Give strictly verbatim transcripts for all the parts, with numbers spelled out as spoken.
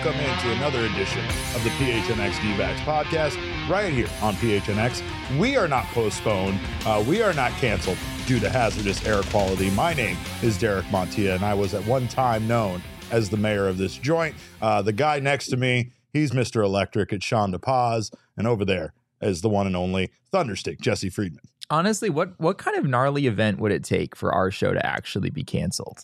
welcome into another edition of the P H N X D-Backs podcast right here on P H N X. We are not postponed. Uh, we are not canceled due to hazardous air quality. My name is Derek Montilla, and I was at one time known as the mayor of this joint. Uh, the guy next to me, he's Mister Electric. It's Sean DePaz, and over there is the one and only Thunderstick, Jesse Friedman. Honestly, what what kind of gnarly event would it take for our show to actually be canceled?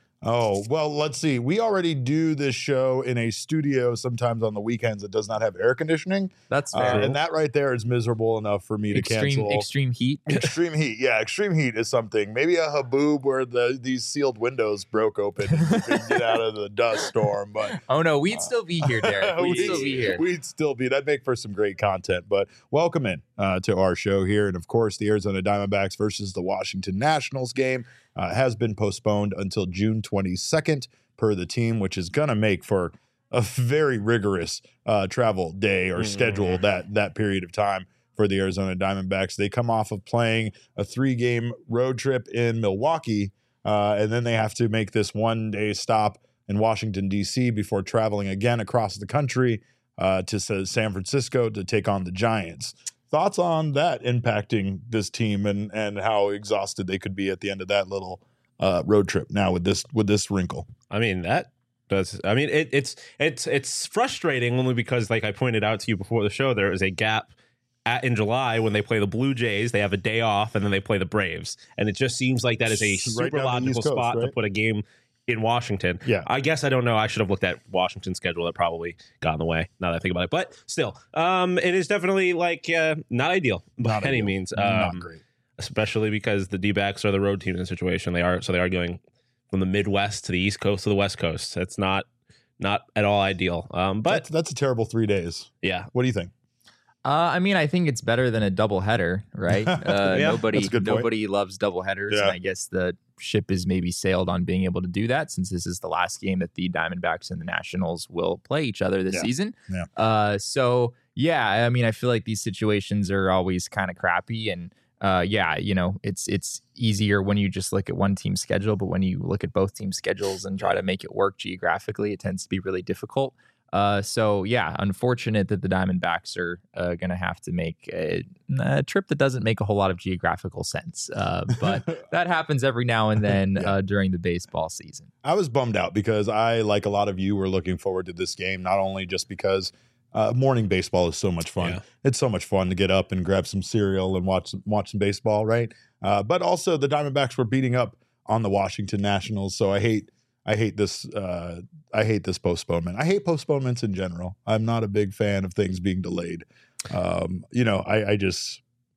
Oh, well, let's see. We already do this show in a studio sometimes on the weekends that does not have air conditioning. That's fair. Uh, and that right there is miserable enough for me to extreme, cancel. Extreme heat? Extreme heat. Yeah, extreme heat is something. Maybe a haboob where the these sealed windows broke open and you could get out of the dust storm. But oh, no, we'd uh, still be here, Derek. We'd, we'd still be here. We'd still be. That'd make for some great content. But welcome in uh, to our show here. And, of course, the Arizona Diamondbacks versus the Washington Nationals game uh, has been postponed until June twenty-second. Per the team, which is going to make for a very rigorous uh, travel day or schedule that that period of time for the Arizona Diamondbacks. They come off of playing a three-game road trip in Milwaukee, uh, and then they have to make this one-day stop in Washington, D C before traveling again across the country uh, to San Francisco to take on the Giants. Thoughts on that impacting this team and, and how exhausted they could be at the end of that little Uh, road trip now with this with this wrinkle? I mean, that does. I mean, it, it's it's it's frustrating only because, like I pointed out to you before the show, there is a gap at, in July when they play the Blue Jays. They have a day off, and then they play the Braves, and it just seems like that is a super right logical Coast, spot right? to put a game in Washington. Yeah, I guess I don't know. I should have looked at Washington's schedule. That probably got in the way. Now that I think about it, but still, um, it is definitely like uh, not ideal by not any ideal. means. Um, um, not great. Especially because the D-backs are the road team in the situation. They are so they are going from the Midwest to the East Coast to the West Coast. It's not not at all ideal. Um, but that's, that's a terrible three days. Yeah. What do you think? Uh, I mean, I think it's better than a doubleheader, right? Uh, yeah, nobody nobody loves doubleheaders, yeah. and I guess the ship is maybe sailed on being able to do that since this is the last game that the Diamondbacks and the Nationals will play each other this yeah. season. Yeah. Uh, so yeah, I mean, I feel like these situations are always kind of crappy and. Uh, yeah, you know, it's it's easier when you just look at one team's schedule, but when you look at both teams' schedules and try to make it work geographically, it tends to be really difficult. Uh, so, yeah, unfortunate that the Diamondbacks are uh, going to have to make a, a trip that doesn't make a whole lot of geographical sense. Uh, but that happens every now and then yeah. uh, during the baseball season. I was bummed out because I, like a lot of you, were looking forward to this game, not only just because Uh, morning baseball is so much fun. Yeah. It's so much fun to get up and grab some cereal and watch watch some baseball, right? Uh, but also the Diamondbacks were beating up on the Washington Nationals, so I hate I hate this uh, I hate this postponement. I hate postponements in general. I'm not a big fan of things being delayed. Um, you know, I, I just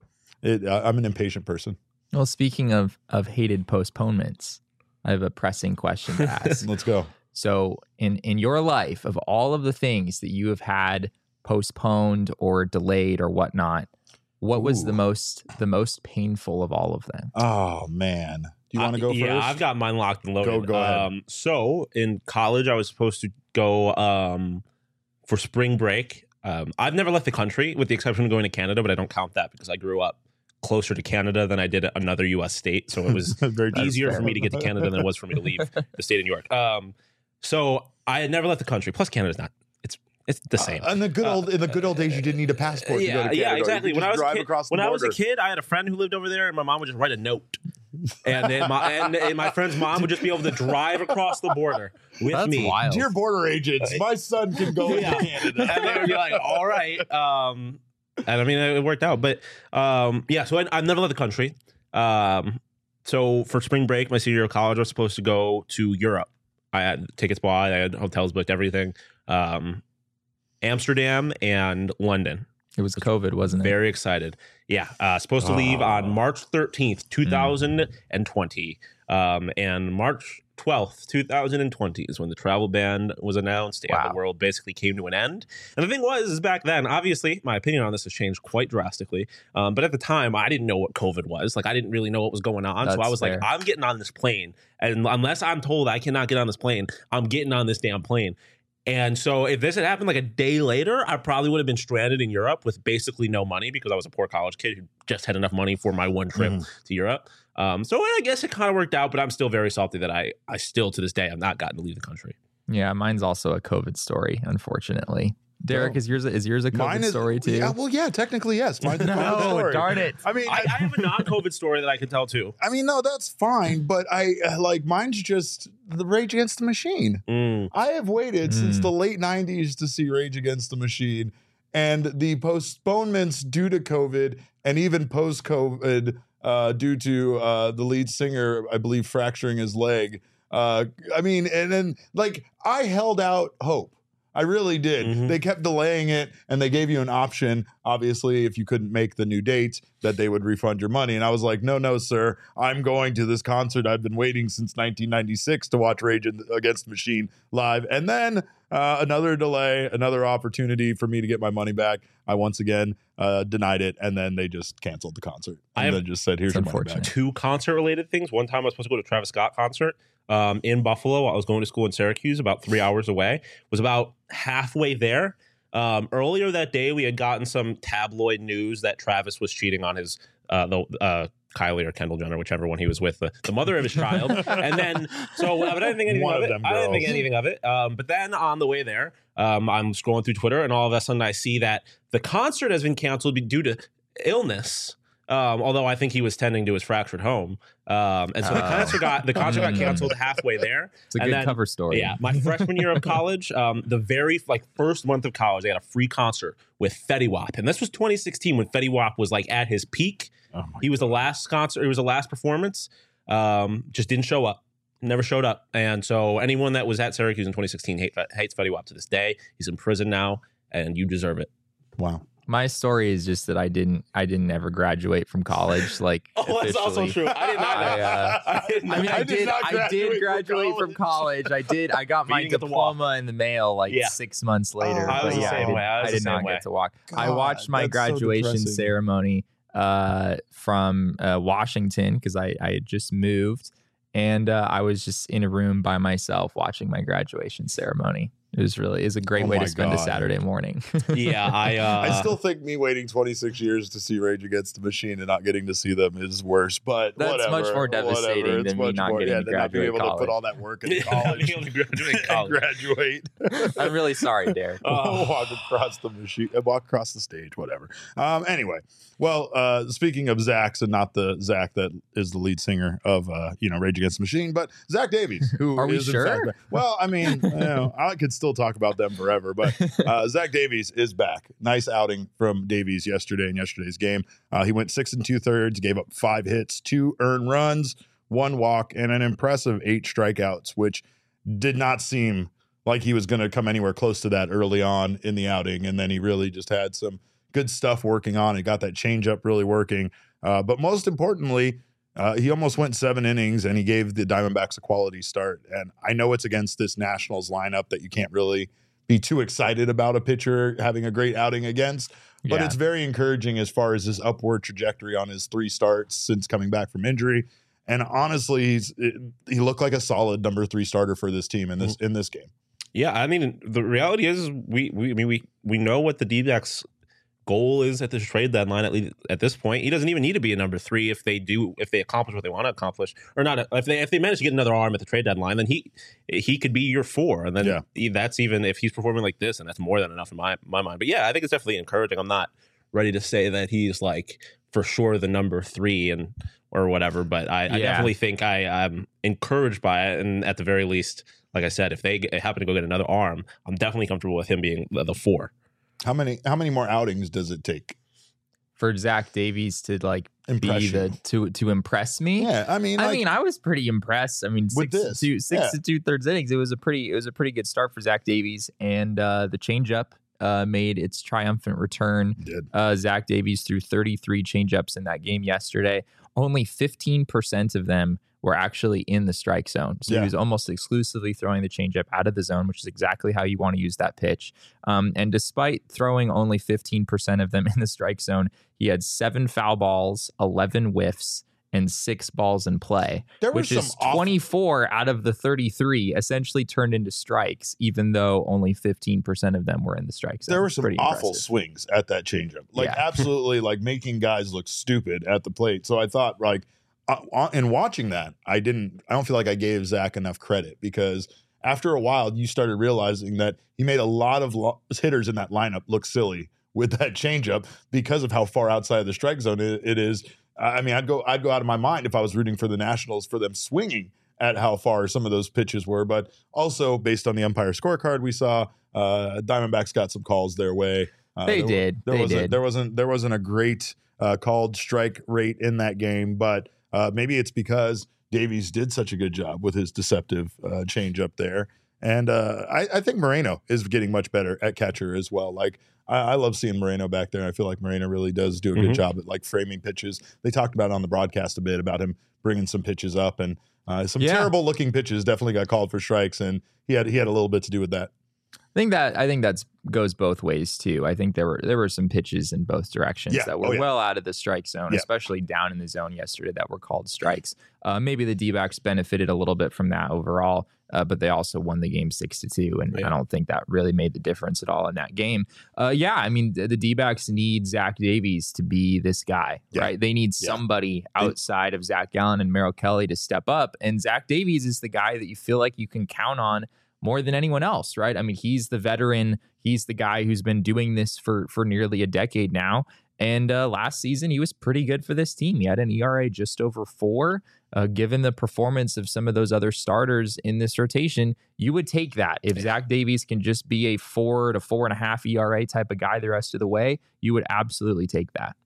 it, I'm an impatient person. Well, speaking of of hated postponements, I have a pressing question to ask. Let's go. So in, in your life, of all of the things that you have had postponed or delayed or whatnot, what was Ooh. the most the most painful of all of them? Oh, man. Do you want to go uh, first? Yeah, I've got mine locked and loaded. Go, go ahead. Um, so in college, I was supposed to go um, for spring break. Um, I've never left the country with the exception of going to Canada, but I don't count that because I grew up closer to Canada than I did another U S state. So it was Very easier fair. for me to get to Canada than it was for me to leave the state of New York. Um, So I had never left the country. Plus, Canada's not. It's it's the same. Uh, in the good old uh, in the good old days, you didn't need a passport. Yeah, to go to Canada. yeah, exactly. You When I was a drive kid, across the when I was a border. kid, I had a friend who lived over there, and my mom would just write a note, and then my and, and my friend's mom would just be able to drive across the border with That's me. wild. Dear border agents, my son can go Yeah. to Canada. And they would be like, "All right," um, and I mean, it worked out. But um, yeah, so I, I've never left the country. Um, so for spring break, my senior year of college, I was supposed to go to Europe. I had tickets bought, I had hotels booked, everything. Um, Amsterdam and London. It was COVID, wasn't it? Very excited. Yeah. Uh, supposed to leave Oh. on March thirteenth, twenty twenty. Mm. Um, and March twelfth, twenty twenty is when the travel ban was announced and Wow. the world basically came to an end. And the thing was, is back then, obviously, my opinion on this has changed quite drastically. Um, but at the time, I didn't know what COVID was. Like, I didn't really know what was going on. That's so I was fair. like, I'm getting on this plane. And unless I'm told I cannot get on this plane, I'm getting on this damn plane. And so if this had happened like a day later, I probably would have been stranded in Europe with basically no money because I was a poor college kid who just had enough money for my one trip mm. to Europe. Um, so I guess it kind of worked out, but I'm still very salty that I, I still to this day have not gotten to leave the country. Yeah, mine's also a COVID story, unfortunately. Derek, No. is yours is yours a COVID Mine is, story too? Yeah, well, yeah, technically yes. Mine's a COVID No, story. darn it. I mean, I, I have a non-COVID story that I can tell too. I mean, no, that's fine, but I uh, like mine's just the Rage Against the Machine. Mm. I have waited since Mm. the late nineties to see Rage Against the Machine, and the postponements due to COVID and even post-COVID uh, due to uh, the lead singer, I believe, fracturing his leg. Uh, I mean, and then like I held out hope. I really did. Mhm. They kept delaying it, and they gave you an option. Obviously, if you couldn't make the new date, that they would refund your money. And I was like, no, no, sir. I'm going to this concert. I've been waiting since nineteen ninety-six to watch Rage Against the Machine live. And then uh, another delay, another opportunity for me to get my money back. I once again uh, denied it, and then they just canceled the concert. I And have- then just said, here's It's your money back. unfortunate. Two concert-related things. One time I was supposed to go to a Travis Scott concert um, in Buffalo. I was going to school in Syracuse, about three hours away. Was about halfway there. Um, earlier that day, we had gotten some tabloid news that Travis was cheating on his uh, the uh, Kylie or Kendall Jenner, whichever one he was with, the, the mother of his child. And then, so but I didn't think anything One of of it. them I didn't think girls. anything of it. Um, but then on the way there, um, I'm scrolling through Twitter, and all of a sudden I see that the concert has been canceled due to illness. Um, although I think he was tending to his fractured home, um, and so the Oh. concert got the concert got Mm. canceled halfway there. It's a And good then- cover story. Yeah, my freshman year of college, um, the very like first month of college, I got a free concert with Fetty Wap, and this was twenty sixteen when Fetty Wap was like at his peak. Oh my He was the last concert. It was the last performance. Um, just didn't show up. Never showed up. And so anyone that was at Syracuse in twenty sixteen hate, hates Fetty Wap to this day. He's in prison now, and you deserve it. Wow. My story is just that I didn't I didn't ever graduate from college. Like Oh, that's also officially. true. I did not. I, uh, I did I not. mean, I, I did did. not I graduate did from graduate from college. I did. I got But my you didn't get to walk. diploma in the mail like Yeah. six months later. Oh, I was but the yeah, same I did, way. I was I the did same not way. get to walk. I God, watched my that's so graduation depressing. ceremony uh, from uh, Washington because I, I had just moved, and uh, I was just in a room by myself watching my graduation ceremony. It was really it was a great Oh way my to spend a God. Saturday morning. Yeah, I. Uh, I still think me waiting twenty-six years to see Rage Against the Machine and not getting to see them is worse. But That's whatever, much more whatever. devastating It's than me much not more, getting yeah, to than not being graduate able to put college. all that work in Yeah, college being able to graduate and college. graduate. I'm really sorry, Derek. Oh. walk across the machine, walk across the stage, whatever. Um, anyway, well, uh, speaking of Zach's and not the Zach that is the lead singer of uh, you know Rage Against the Machine, but Zach Davies, who Are we is in sure? fact- well, I mean, you know, I could still talk about them forever, but uh, Zach Davies is back. Nice outing from Davies yesterday in yesterday's game. Uh, he went six and two thirds, gave up five hits, two earned runs, one walk, and an impressive eight strikeouts, which did not seem like he was going to come anywhere close to that early on in the outing. And then he really just had some good stuff working on. He got that changeup really working. Uh, but most importantly, uh, he almost went seven innings and he gave the Diamondbacks a quality start. And I know it's against this Nationals lineup that you can't really be too excited about a pitcher having a great outing against. But Yeah. it's very encouraging as far as his upward trajectory on his three starts since coming back from injury. And honestly, he's it, he looked like a solid number three starter for this team in this in this game. Yeah, I mean, the reality is, we, we I mean, we we know what the D-backs goal is at this trade deadline. At least at this point, he doesn't even need to be a number three if they do if they accomplish what they want to accomplish, or not. If they if they manage to get another arm at the trade deadline, then he he could be your four, and then Yeah. he- that's even if he's performing like this, and that's more than enough in my my mind. But yeah, I think it's definitely encouraging. I'm not ready to say that he's like for sure the number three and or whatever, but I, I Yeah. definitely think I, I'm encouraged by it, and at the very least, like I said, if they get, happen to go get another arm, I'm definitely comfortable with him being the, the four. How many how many more outings does it take? For Zach Davies to like be Impression. the to to impress me. Yeah, I mean, I like, mean, I was pretty impressed. I mean, With six this, to two, six yeah. to two thirds innings. It was a pretty, it was a pretty good start for Zach Davies, and uh, the changeup uh, made its triumphant return. did. Uh, Zach Davies threw thirty-three changeups in that game yesterday. Only fifteen percent of them were actually in the strike zone. So Yeah. he was almost exclusively throwing the changeup out of the zone, which is exactly how you want to use that pitch. Um, and despite throwing only fifteen percent of them in the strike zone, he had seven foul balls, eleven whiffs, and six balls in play, There was which some is awful- twenty-four out of the thirty-three essentially turned into strikes, even though only fifteen percent of them were in the strike zone. There were some Pretty awful impressive. swings at that changeup, like Yeah. absolutely, like making guys look stupid at the plate. So I thought, like, uh, uh, in watching that, I didn't. I don't feel like I gave Zach enough credit because after a while, you started realizing that he made a lot of lo- hitters in that lineup look silly with that changeup because of how far outside of the strike zone it, it is. I mean, I'd go I'd go out of my mind if I was rooting for the Nationals for them swinging at how far some of those pitches were. But also, based on the umpire scorecard we saw, uh, Diamondbacks got some calls their way. Uh, They there, did. There They wasn't, did. There wasn't. There wasn't a great uh, called strike rate in that game, but uh, maybe it's because Davies did such a good job with his deceptive uh, change up there. And uh, I, I think Moreno is getting much better at catcher as well. Like I, I love seeing Moreno back there. I feel like Moreno really does do a good Mhm. job at like framing pitches. They talked about it on the broadcast a bit about him bringing some pitches up, and uh, some Yeah. terrible looking pitches definitely got called for strikes, and he had he had a little bit to do with that. I think that I think that's goes both ways too. I think there were there were some pitches in both directions Yeah. that were Oh, yeah. well out of the strike zone, Yeah. especially down in the zone yesterday that were called strikes. Uh, maybe the D-backs benefited a little bit from that overall, uh, but they also won the game six to two, and Yeah. I don't think that really made the difference at all in that game. Uh, yeah, I mean the, the D-backs need Zach Davies to be this guy, Yeah. right? They need Yeah. somebody outside of Zach Gallen and Merrill Kelly to step up, and Zach Davies is the guy that you feel like you can count on more than anyone else, right? I mean, he's the veteran. He's the guy who's been doing this for for nearly a decade now. And uh, last season, he was pretty good for this team. He had an E R A just over four. Uh, given the performance of some of those other starters in this rotation, you would take that. If Zach Davies can just be a four to four and a half E R A type of guy the rest of the way, you would absolutely take that.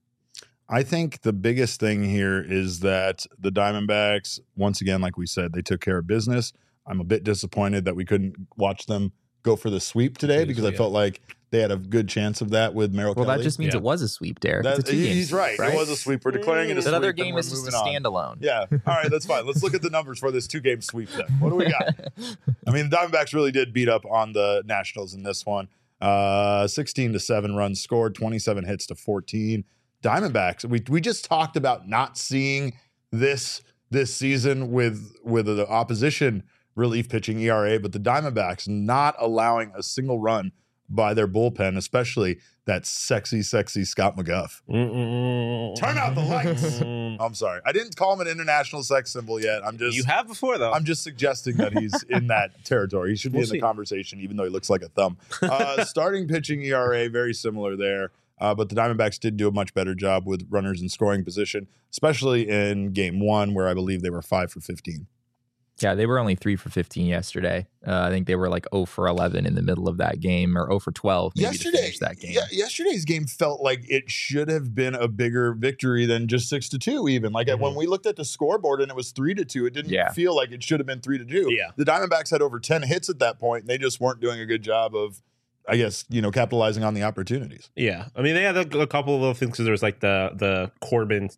I think the biggest thing here is that the Diamondbacks, once again, like we said, they took care of business. I'm a bit disappointed that we couldn't watch them go for the sweep today because I Yeah. felt like they had a good chance of that with Merrill Well, Kelly. that just means Yeah. it was a sweep, Derek. That- it's a two-game he's sweep, right. right? It was a sweep. We're declaring it a That sweep. other and game we're is just a moving on. standalone. Yeah. All right, that's fine. Let's look at the numbers for this two-game sweep then. What do we got? I mean, the Diamondbacks really did beat up on the Nationals in this one. Uh, sixteen to seven runs scored, twenty-seven hits to fourteen. Diamondbacks, we we just talked about not seeing this this season with with the opposition relief pitching E R A, but the Diamondbacks not allowing a single run by their bullpen, especially that sexy, sexy Scott McGuff. Mm-mm. Turn out the lights. Mm. I'm sorry. I didn't call him an international sex symbol yet. I'm just You have before though. I'm just suggesting that he's in that territory. He should be We'll in the see. conversation, even though he looks like a thumb. Uh, starting pitching E R A, very similar there. Uh, but the Diamondbacks did do a much better job with runners in scoring position, especially in game one, where I believe they were five for fifteen. Yeah, they were only three for fifteen yesterday. Uh, I think they were like zero for eleven in the middle of that game, or zero for twelve maybe to Yesterday, finish that game. yeah, yesterday's game felt like it should have been a bigger victory than just six to two. Even like Mhm. when we looked at the scoreboard and it was three to two, it didn't Yeah. feel like it should have been three to two. Yeah. The Diamondbacks had over ten hits at that point, and they just weren't doing a good job of, I guess, you know, capitalizing on the opportunities. Yeah, I mean they had a, a couple of little things because there was like the the Corbin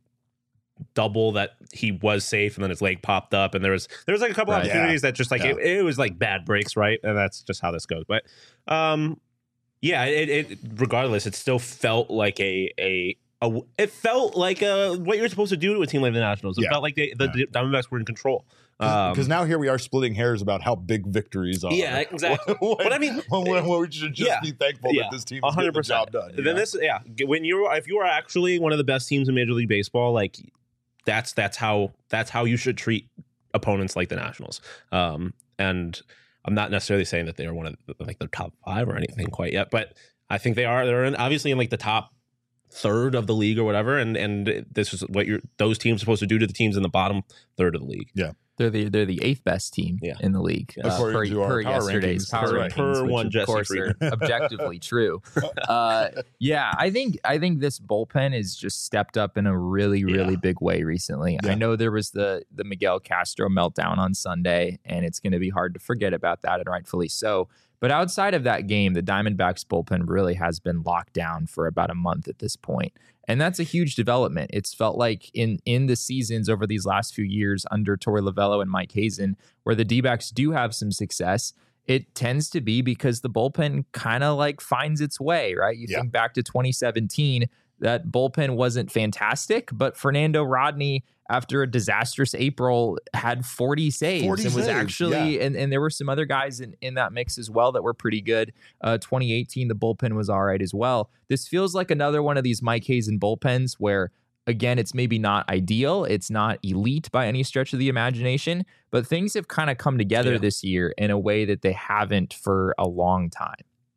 double that he was safe and then his leg popped up and there was there was like a couple Right. opportunities that just like Yeah. it, it was like bad breaks, right? And that's just how this goes. But um, yeah, it, it regardless, it still felt like a a. A, it felt like uh, what you're supposed to do to a team like the Nationals. It Yeah. felt like they, the Yeah. Diamondbacks were in control. Um, Because now here we are splitting hairs about how big victories are. Yeah, exactly. When- But I mean- when, when, when we should just Yeah. be thankful Yeah. that this team A is hundred getting the job percent. done. you Then know? this, yeah, when you're if you are actually one of the best teams in Major League Baseball, like that's that's how that's how you should treat opponents like the Nationals. Um, and I'm not necessarily saying that they are one of the, like the top five or anything quite yet, but I think they are. They're in, obviously in like the top third of the league or whatever, and and this is what you're those teams are supposed to do to the teams in the bottom third of the league. They're the they're the eighth best team Yeah. in the league, uh, According per, to our per power yesterday's rankings. power That's Per- right. rankings, per which one of Jesse course are Friedman. objectively true. Uh, yeah, I think I think this bullpen has just stepped up in a really really Yeah. big way recently. Yeah. I know there was the the Miguel Castro meltdown on Sunday, and it's going to be hard to forget about that, and rightfully so. But outside of that game, the Diamondbacks bullpen really has been locked down for about a month at this point. And that's a huge development. It's felt like in in the seasons over these last few years under Torey Lovello and Mike Hazen, where the D-backs do have some success, it tends to be because the bullpen kind of like finds its way, right? You Yeah. think back to twenty seventeen, that bullpen wasn't fantastic, but Fernando Rodney, after a disastrous April, had forty saves forty and was saves, actually, and, and there were some other guys in, in that mix as well that were pretty good. Uh, twenty eighteen, the bullpen was all right as well. This feels like another one of these Mike Hazen bullpens where again, it's maybe not ideal. It's not elite by any stretch of the imagination, but things have kind of come together Yeah. this year in a way that they haven't for a long time.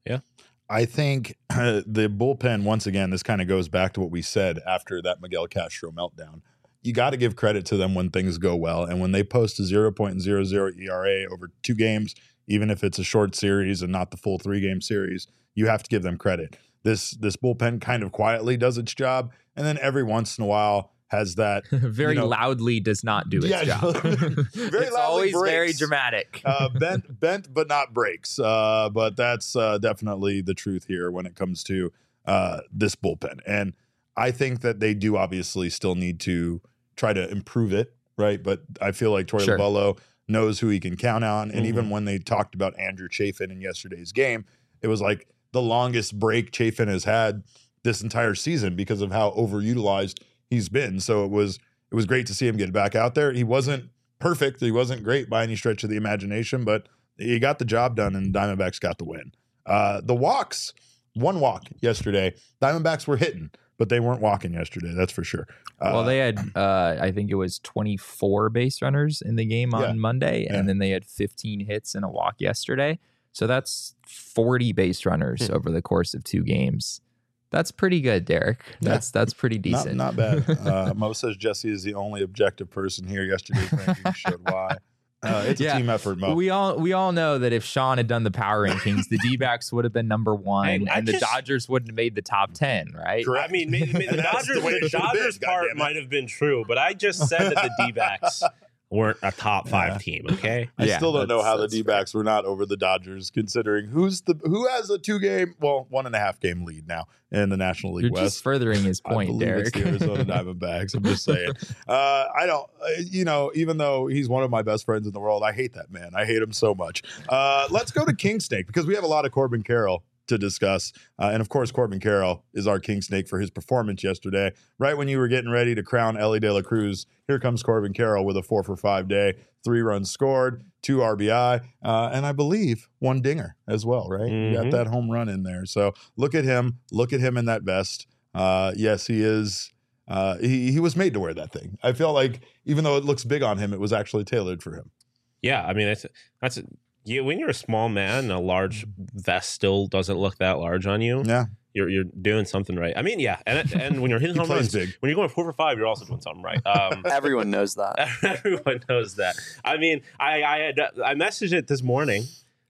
I think uh, the bullpen, once again, this kind of goes back to what we said after that Miguel Castro meltdown. You got to give credit to them when things go well. And when they post a zero point zero zero E R A over two games, even if it's a short series and not the full three-game series, you have to give them credit. This this bullpen kind of quietly does its job, and then every once in a while has that very you know, loudly does not do its Yeah, job. very it's loudly always breaks. very dramatic. uh, bent, bent, but not breaks. Uh, but that's uh, definitely the truth here when it comes to uh, this bullpen. And I think that they do obviously still need to try to improve it, right? But I feel like Torey Sure. Lovullo knows who he can count on. And Mhm. even when they talked about Andrew Chafin in yesterday's game, it was like the longest break Chafin has had this entire season because of how overutilized he's been. So it was it was great to see him get back out there. He wasn't perfect. He wasn't great by any stretch of the imagination, but he got the job done, and Diamondbacks got the win. Uh, the walks, one walk yesterday. Diamondbacks were hitting, but they weren't walking yesterday. That's for sure. Uh, Well, they had, uh, I think it was twenty-four base runners in the game on Yeah. Monday, Yeah. and then they had fifteen hits and a walk yesterday. So that's forty base runners Hmm. over the course of two games. That's pretty good, Derek. Yeah. That's that's pretty not, decent. not bad. Uh, Mo says Jesse is the only objective person here. Yesterday's rankings showed why. Uh, it's Yeah. a team effort, Mo. We all we all know that if Sean had done the power rankings, the D-backs would have been number one, Hey, I and the just- Dodgers wouldn't have made the top ten, right? Correct. I mean, maybe, maybe the That's Dodgers, the way it the should've been, Dodgers part goddammit. might have been true, but I just said that the D-backs weren't a top five Yeah. team. Okay, I Yeah, still don't know that's- how the that's D backs were not over the Dodgers, considering who's the who has a two game, well, one and a half game lead now in the National League You're West. just furthering his I point, believe Derek. it's the Arizona Diamondbacks. I'm just saying. Uh, I don't, uh, you know, even though he's one of my best friends in the world, I hate that man. I hate him so much. Uh, let's go to King Snake because we have a lot of Corbin Carroll to discuss. Uh, and of course, Corbin Carroll is our King Snake for his performance yesterday. Right when you were getting ready to crown Ellie De La Cruz, here comes Corbin Carroll with a four for five day, three runs scored, two R B I, uh, and I believe one dinger as well, right? You got Mhm. that home run in there. So look at him. Look at him in that vest. Uh, yes, he is. Uh, he, he was made to wear that thing. I feel like even though it looks big on him, it was actually tailored for him. yeah. I mean, that's that's you. When you're a small man, a large vest still doesn't look that large on you. Yeah, You're you're doing something right. I mean, yeah, and and when you're hitting he home plays runs, big. when you're going four for five, you're also doing something right. Um, Everyone knows that. Everyone knows that. I mean, I I had I messaged it this morning.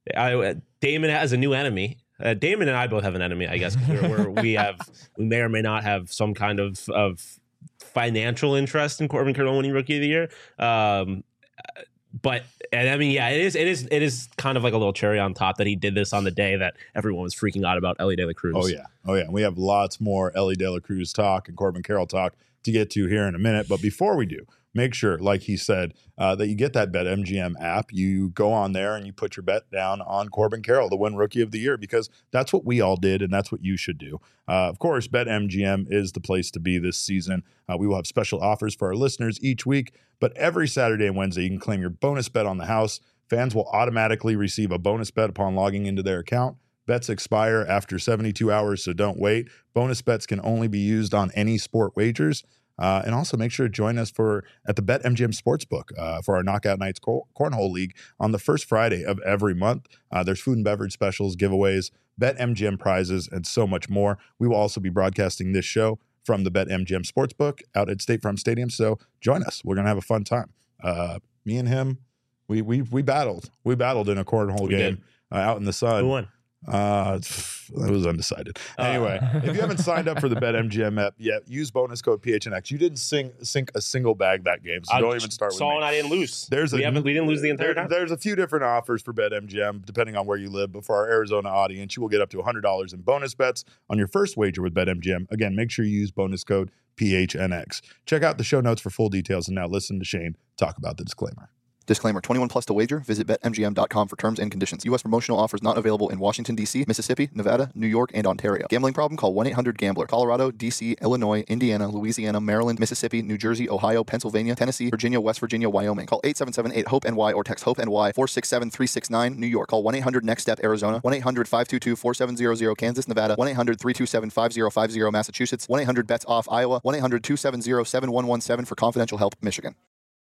I, Damon has a new enemy. Uh, Damon and I both have an enemy, I guess. 'Cause we're, we're, we have we may or may not have some kind of of financial interest in Corbin Carroll winning Rookie of the Year. Um, but and I mean, yeah, it is it is it is kind of like a little cherry on top that he did this on the day that everyone was freaking out about Ellie De La Cruz. Oh yeah, oh yeah. We have lots more Ellie De La Cruz talk and Corbin Carroll talk to get to here in a minute. But before we do, make sure, like he said, uh, that you get that BetMGM app. You go on there and you put your bet down on Corbin Carroll to win Rookie of the Year because that's what we all did and that's what you should do. Uh, of course, BetMGM is the place to be this season. Uh, we will have special offers for our listeners each week, but every Saturday and Wednesday you can claim your bonus bet on the house. Fans will automatically receive a bonus bet upon logging into their account. Bets expire after seventy-two hours, so don't wait. Bonus bets can only be used on any sport wagers. Uh, and also make sure to join us for at the BetMGM Sportsbook uh, for our Knockout Nights Cor- Cornhole League on the first Friday of every month. Uh, there's food and beverage specials, giveaways, BetMGM prizes, and so much more. We will also be broadcasting this show from the BetMGM Sportsbook out at State Farm Stadium. So join us. We're going to have a fun time. Uh, me and him, we we we battled. We battled in a cornhole We game uh, out in the sun. Who won? Uh, it was undecided. Uh. Anyway, if you haven't signed up for the BetMGM app yet, use bonus code P H N X. You didn't sing, sink a single bag that game, so I don't even start with saw me. and I didn't lose. There's we a- haven't we didn't lose the entire There- time. There's a few different offers for BetMGM depending on where you live. But for our Arizona audience, you will get up to one hundred dollars in bonus bets on your first wager with BetMGM. Again, make sure you use bonus code P H N X. Check out the show notes for full details. And now listen to Shane talk about the disclaimer. Disclaimer, twenty-one plus to wager. Visit bet M G M dot com for terms and conditions. U S promotional offers not available in Washington, D C, Mississippi, Nevada, New York, and Ontario. Gambling problem? Call one eight hundred gambler. Colorado, D C, Illinois, Indiana, Louisiana, Maryland, Mississippi, New Jersey, Ohio, Pennsylvania, Tennessee, Virginia, West Virginia, Wyoming. Call eight seven seven eight hope N Y or text HOPE-NY four six seven three six nine. New York. Call one eight hundred next step Arizona. one eight hundred five two two four seven zero zero Kansas, Nevada. one eight hundred three two seven five zero five zero Massachusetts. one eight hundred bets off Iowa. one eight hundred two seven zero seven one one seven for confidential help, Michigan.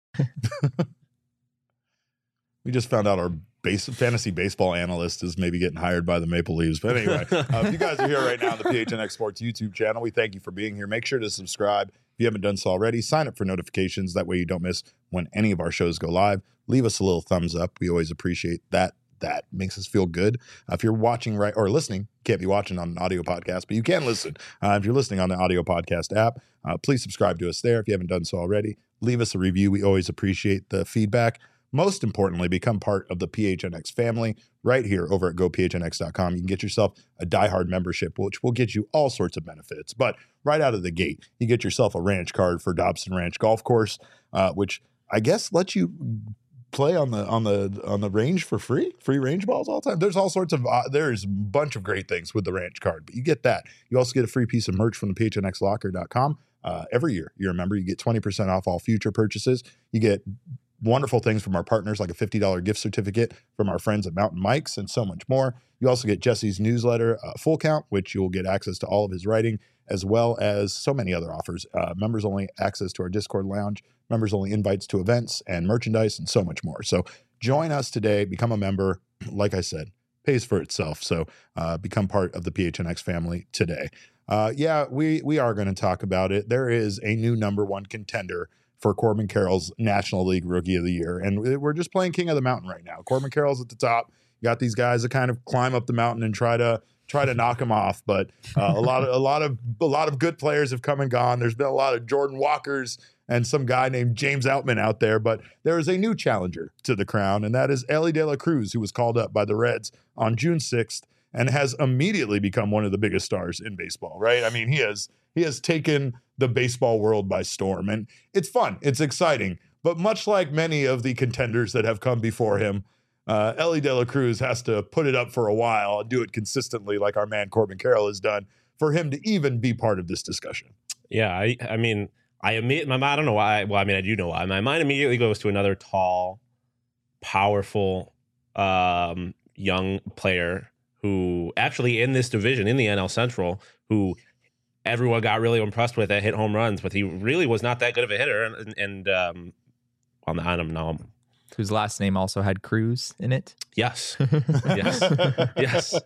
We just found out our base fantasy baseball analyst is maybe getting hired by the Maple Leafs. But anyway, uh, if you guys are here right now on the P H N X Sports YouTube channel, we thank you for being here. Make sure to subscribe. If you haven't done so already, sign up for notifications. That way you don't miss when any of our shows go live. Leave us a little thumbs up. We always appreciate that. That makes us feel good. Uh, if you're watching right or listening, can't be watching on an audio podcast, but you can listen. Uh, if you're listening on the audio podcast app, uh, please subscribe to us there. If you haven't done so already, leave us a review. We always appreciate the feedback. Most importantly, become part of the P H N X family right here over at go P H N X dot com. You can get yourself a diehard membership, which will get you all sorts of benefits. But right out of the gate, you get yourself a ranch card for Dobson Ranch Golf Course, uh, which I guess lets you play on the on the on the range for free, free range balls all the time. There's all sorts of uh, there's a bunch of great things with the ranch card, but you get that. You also get a free piece of merch from the P H N X locker dot com uh, every year. You remember, you get twenty percent off all future purchases. You get wonderful things from our partners, like a fifty dollars gift certificate from our friends at Mountain Mike's and so much more. You also get Jesse's newsletter, uh, Full Count, which you'll get access to all of his writing, as well as so many other offers. Uh, members only access to our Discord lounge, members only invites to events and merchandise, and so much more. So join us today, become a member. Like I said, pays for itself. So uh, become part of the P H N X family today. Uh, yeah, we, we are going to talk about it. There is a new number one contender for Corbin Carroll's National League Rookie of the Year. And we're just playing King of the Mountain right now. Corbin Carroll's at the top. You got these guys that kind of climb up the mountain and try to try to knock him off. But uh, a lot of a lot of a lot of good players have come and gone. There's been a lot of Jordan Walkers and some guy named James Outman out there. But there is a new challenger to the crown, and that is Elly De La Cruz, who was called up by the Reds on June sixth and has immediately become one of the biggest stars in baseball, right? I mean, he has he has taken the baseball world by storm, and it's fun. It's exciting. But much like many of the contenders that have come before him, uh, Elly De La Cruz has to put it up for a while and do it consistently like our man Corbin Carroll has done for him to even be part of this discussion. Yeah, I, I mean, I imme- my I don't know why. Well, I mean, I do know why. My mind immediately goes to another tall, powerful, um, young player who actually in this division, in the N L Central, who everyone got really impressed with that hit home runs, but he really was not that good of a hitter. And, and um, on the I don't know. Whose last name also had Cruz in it. Yes. yes. yes.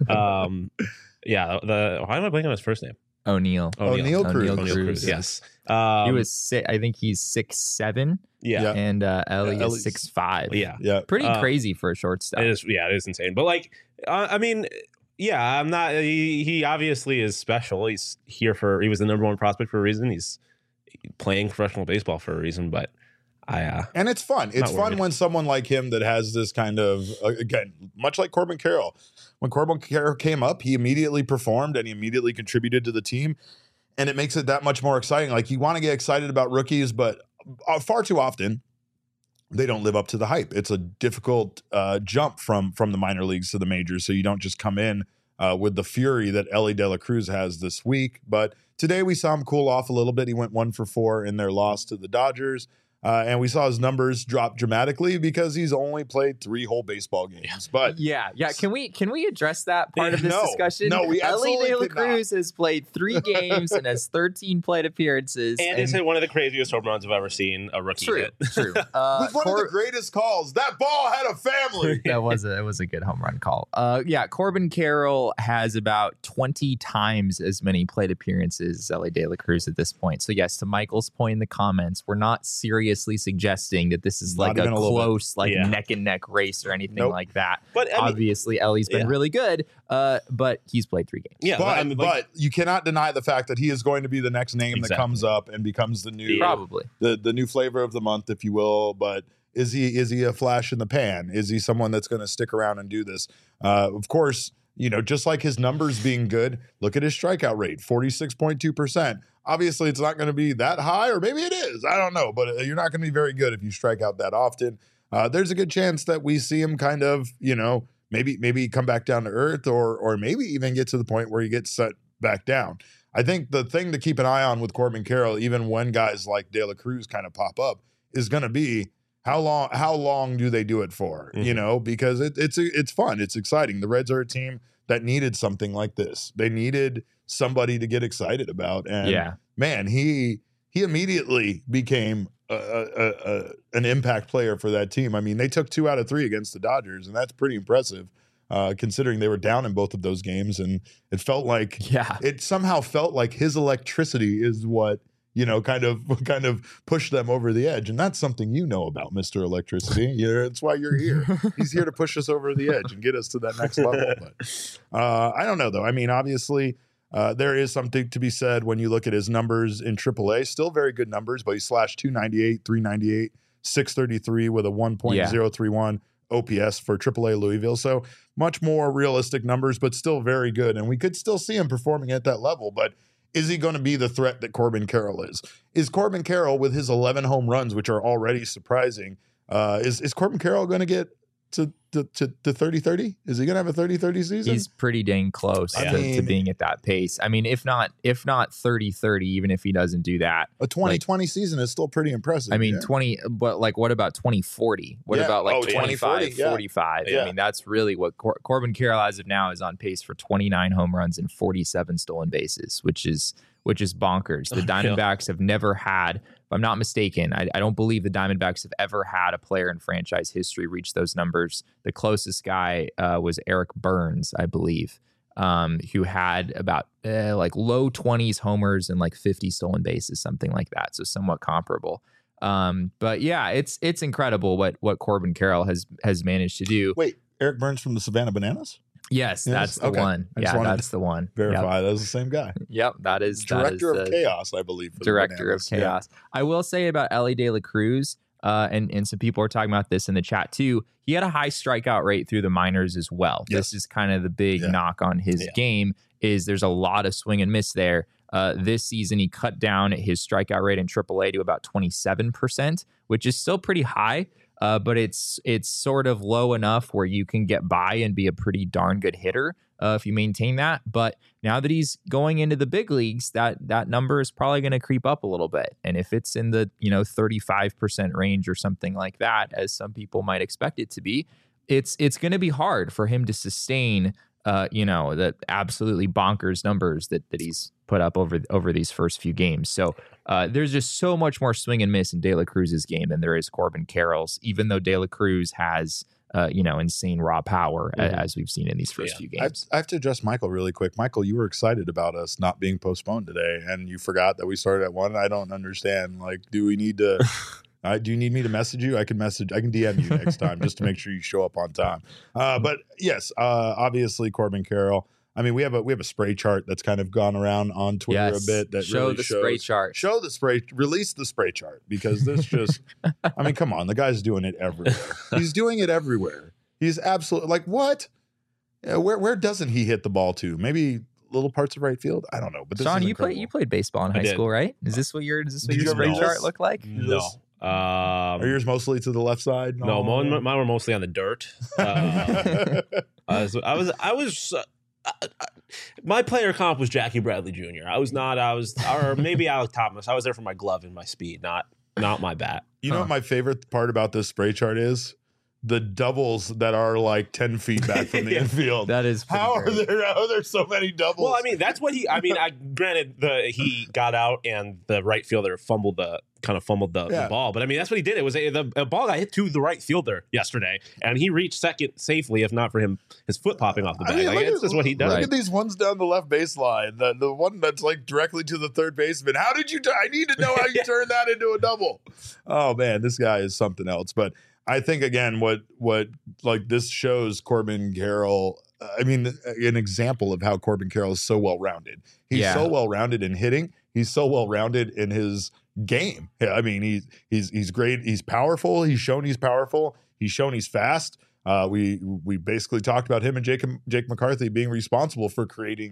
Um, yeah. The why am I blanking on his first name? O'Neal. O'Neal Cruz. O'Neal O'Neal Cruz. Cruz. Yes. Um, He was si- I think he's six seven. Yeah. Yeah. And uh, Elly Yeah, is Elly's- six five. Yeah. Yeah. Pretty Uh, crazy for a shortstop. It is. Yeah. It is insane. But like, uh, I mean, yeah, I'm not. He, he obviously is special. He's here for. He was the number one prospect for a reason. He's playing professional baseball for a reason. But I. Uh, And it's fun. It's Not fun worried. when someone like him that has this kind of, uh, again, much like Corbin Carroll, when Corbin Carroll came up, he immediately performed and he immediately contributed to the team. And it makes it that much more exciting. Like, you want to get excited about rookies, but uh, far too often they don't live up to the hype. It's a difficult uh, jump from from the minor leagues to the majors. So you don't just come in uh, with the fury that Elly De La Cruz has this week. But today we saw him cool off a little bit. He went one for four in their loss to the Dodgers. Uh, and we saw his numbers drop dramatically because he's only played three whole baseball games. But yeah, yeah. Can we can we address that part of this No, discussion? no, we Elly absolutely De La cannot. Cruz has played three games and has thirteen plate appearances. and he's hit one of the craziest home runs I've ever seen a rookie true, hit. true. Uh, with one Cor- of the greatest calls, that ball had a family. that was a that was a good home run call. Uh, yeah, Corbin Carroll has about twenty times as many plate appearances as Elly De La Cruz at this point. So yes, to Michael's point in the comments, we're not seriously suggesting that this is Not like a even a little bit. close, like Yeah. neck and neck race or anything Nope. like that. But I mean, Obviously, Ellie's been yeah. really good, uh, but he's played three games. yeah, But, I mean, like, but you cannot deny the fact that he is going to be the next name that Exactly. comes up and becomes the new Probably. the the new flavor of the month, if you will. But is he is he a flash in the pan? Is he someone that's going to stick around and do this? Uh, of course, you know, just like his numbers being good, look at his strikeout rate, forty-six point two percent. Obviously, it's not going to be that high, or maybe it is. I don't know, but you're not going to be very good if you strike out that often. uh, there's a good chance that we see him kind of, you know, maybe maybe come back down to earth, or or maybe even get to the point where he gets set back down. I think the thing to keep an eye on with Corbin Carroll, even when guys like De La Cruz kind of pop up, is going to be how long how long do they do it for? Mm-hmm. You know, because it, it's it's fun, it's exciting. The Reds are a team that needed something like this. They needed somebody to get excited about, and yeah. man, he he immediately became a, a, a, an impact player for that team. I mean, they took two out of three against the Dodgers, and that's pretty impressive. Uh, considering they were down in both of those games, and it felt like yeah. it somehow felt like his electricity is what, you know, kind of kind of pushed them over the edge. And that's something you know about Mister Electricity. You know, that's why you're here. He's here to push us over the edge and get us to that next level. But uh, I don't know, though. I mean, obviously, uh, there is something to be said when you look at his numbers in triple A. Still very good numbers, but he slashed two ninety-eight, three ninety-eight, six thirty-three with a one point oh three one. O P S for triple A Louisville. So much more realistic numbers, but still very good. And we could still see him performing at that level. But is he going to be the threat that Corbin Carroll is? Is Corbin Carroll, with his eleven home runs, which are already surprising, uh, is, is Corbin Carroll going to get to to, to, to thirty thirty? Is he going to have a thirty thirty season? He's pretty dang close I to, mean, to being at that pace. I mean, if not if not thirty thirty, even if he doesn't do that. A twenty twenty like, season is still pretty impressive. I mean, yeah. twenty, but like, what about twenty forty? What yeah. about like oh, twenty-five, yeah. forty-five? Yeah. I mean, that's really what Cor- Corbin Carroll as of now is on pace for twenty-nine home runs and forty-seven stolen bases, which is which is bonkers. The Diamondbacks have never had, if I'm not mistaken, I, I don't believe the Diamondbacks have ever had a player in franchise history reach those numbers. The closest guy uh, was Eric Burns, I believe, um, who had about uh, like low twenties homers and like fifty stolen bases, something like that. So somewhat comparable. Um, but yeah, it's it's incredible what what Corbin Carroll has has managed to do. Wait, Eric Burns from the Savannah Bananas? Yes, Yes? that's the Okay. one. I just Yeah, wanted that's the one. Verify Yep. that was the same guy. Yep, that is Director that is of the Chaos, I believe. For the Director of Bananas. Yeah. Chaos. I will say about Ellie De La Cruz, uh, and and some people are talking about this in the chat too. He had a high strikeout rate through the minors as well. Yes. This is kind of the big Yeah. knock on his Yeah. game. Is there's a lot of swing and miss there. Uh, this season, he cut down his strikeout rate in triple A to about twenty-seven percent, which is still pretty high. Uh, but it's it's sort of low enough where you can get by and be a pretty darn good hitter uh, if you maintain that. But now that he's going into the big leagues, that that number is probably going to creep up a little bit. And if it's in the you know thirty-five percent range or something like that, as some people might expect it to be, it's it's going to be hard for him to sustain uh, you know the absolutely bonkers numbers that that he's put up over over these first few games. So uh, there's just so much more swing and miss in De La Cruz's game than there is Corbin Carroll's, even though De La Cruz has, uh, you know, insane raw power, Mm-hmm. a- as we've seen in these first Yeah. few I have, games. I have to address Michael really quick. Michael, you were excited about us not being postponed today, and you forgot that we started at one. I don't understand. Like, do we need to? uh, do you need me to message you? I can message. I can D M you next time just to make sure you show up on time. Uh, but yes, uh, obviously Corbin Carroll. I mean, we have a we have a spray chart that's kind of gone around on Twitter Yes. a bit. That Show really the shows, spray chart. Show the spray. Release the spray chart because this just. I mean, come on, the guy's doing it everywhere. He's doing it everywhere. He's absolutely like what? Yeah, where where doesn't he hit the ball to? Maybe little parts of right field. I don't know. But this Sean, is you played incredible. you played baseball in I high did. school, right? Is this what your is this what Did your you ever spray use chart this? look like? No. Um, Are yours mostly to the left side? no, mine, mine were mostly on the dirt. Uh, I was, I was, I was. Uh, I, I, my player comp was Jackie Bradley Junior I was not. I was, or maybe Alec Thomas. I was there for my glove and my speed, not not my bat. You know Huh. what my favorite part about this spray chart is? The doubles that are like ten feet back from the Yeah. infield. That is pretty How are great. there? How are there so many doubles? Well, I mean, that's what he. I mean, I granted the he got out and the right fielder fumbled the kind of fumbled the, Yeah. the ball, but I mean that's what he did. It was a, the a ball got hit to the right fielder yesterday, and he reached second safely, if not for him his foot popping off the I bag. mean, Like, look it's at- just what he does. Look Right. at these ones down the left baseline. The the one that's like directly to the third baseman. How did you? T- I need to know how you Yeah. turn that into a double. Oh man, this guy is something else. But I think again, what what like this shows Corbin Carroll. I mean, an example of how Corbin Carroll is so well rounded. He's Yeah. so well rounded in hitting. He's so well rounded in his game. Yeah, I mean, he's he's he's great. He's powerful. He's shown he's powerful. He's shown he's fast. Uh, we we basically talked about him and Jake Jake McCarthy being responsible for creating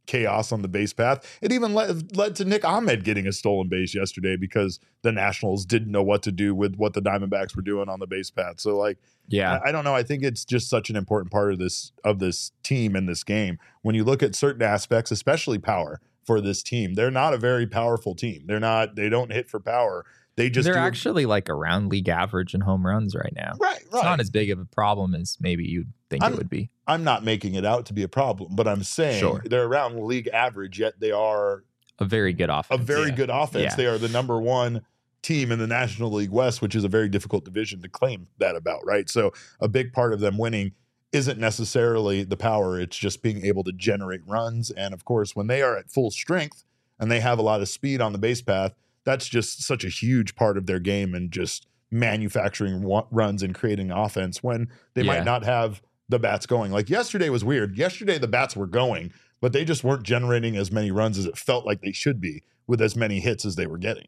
chaos on the base path. It even led, led to Nick Ahmed getting a stolen base yesterday because the Nationals didn't know what to do with what the Diamondbacks were doing on the base path. So like, Yeah. I, I don't know. I think it's just such an important part of this of this team in this game. When you look at certain aspects, especially power for this team, they're not a very powerful team. They're not. They don't hit for power. They just They're do actually like around league average in home runs right now. right. Right. It's not as big of a problem as maybe you'd think I'm- it would be. I'm not making it out to be a problem, but I'm saying Sure. they're around league average. Yet they are A very good a offense. very Yeah. good offense. Yeah. They are the number one team in the National League West, which is a very difficult division to claim that about, right? So a big part of them winning isn't necessarily the power. It's just being able to generate runs. And of course, when they are at full strength and they have a lot of speed on the base path, that's just such a huge part of their game and just manufacturing wa- runs and creating offense when they Yeah. might not have the bats going. Like yesterday was weird. Yesterday, the bats were going, but they just weren't generating as many runs as it felt like they should be with as many hits as they were getting.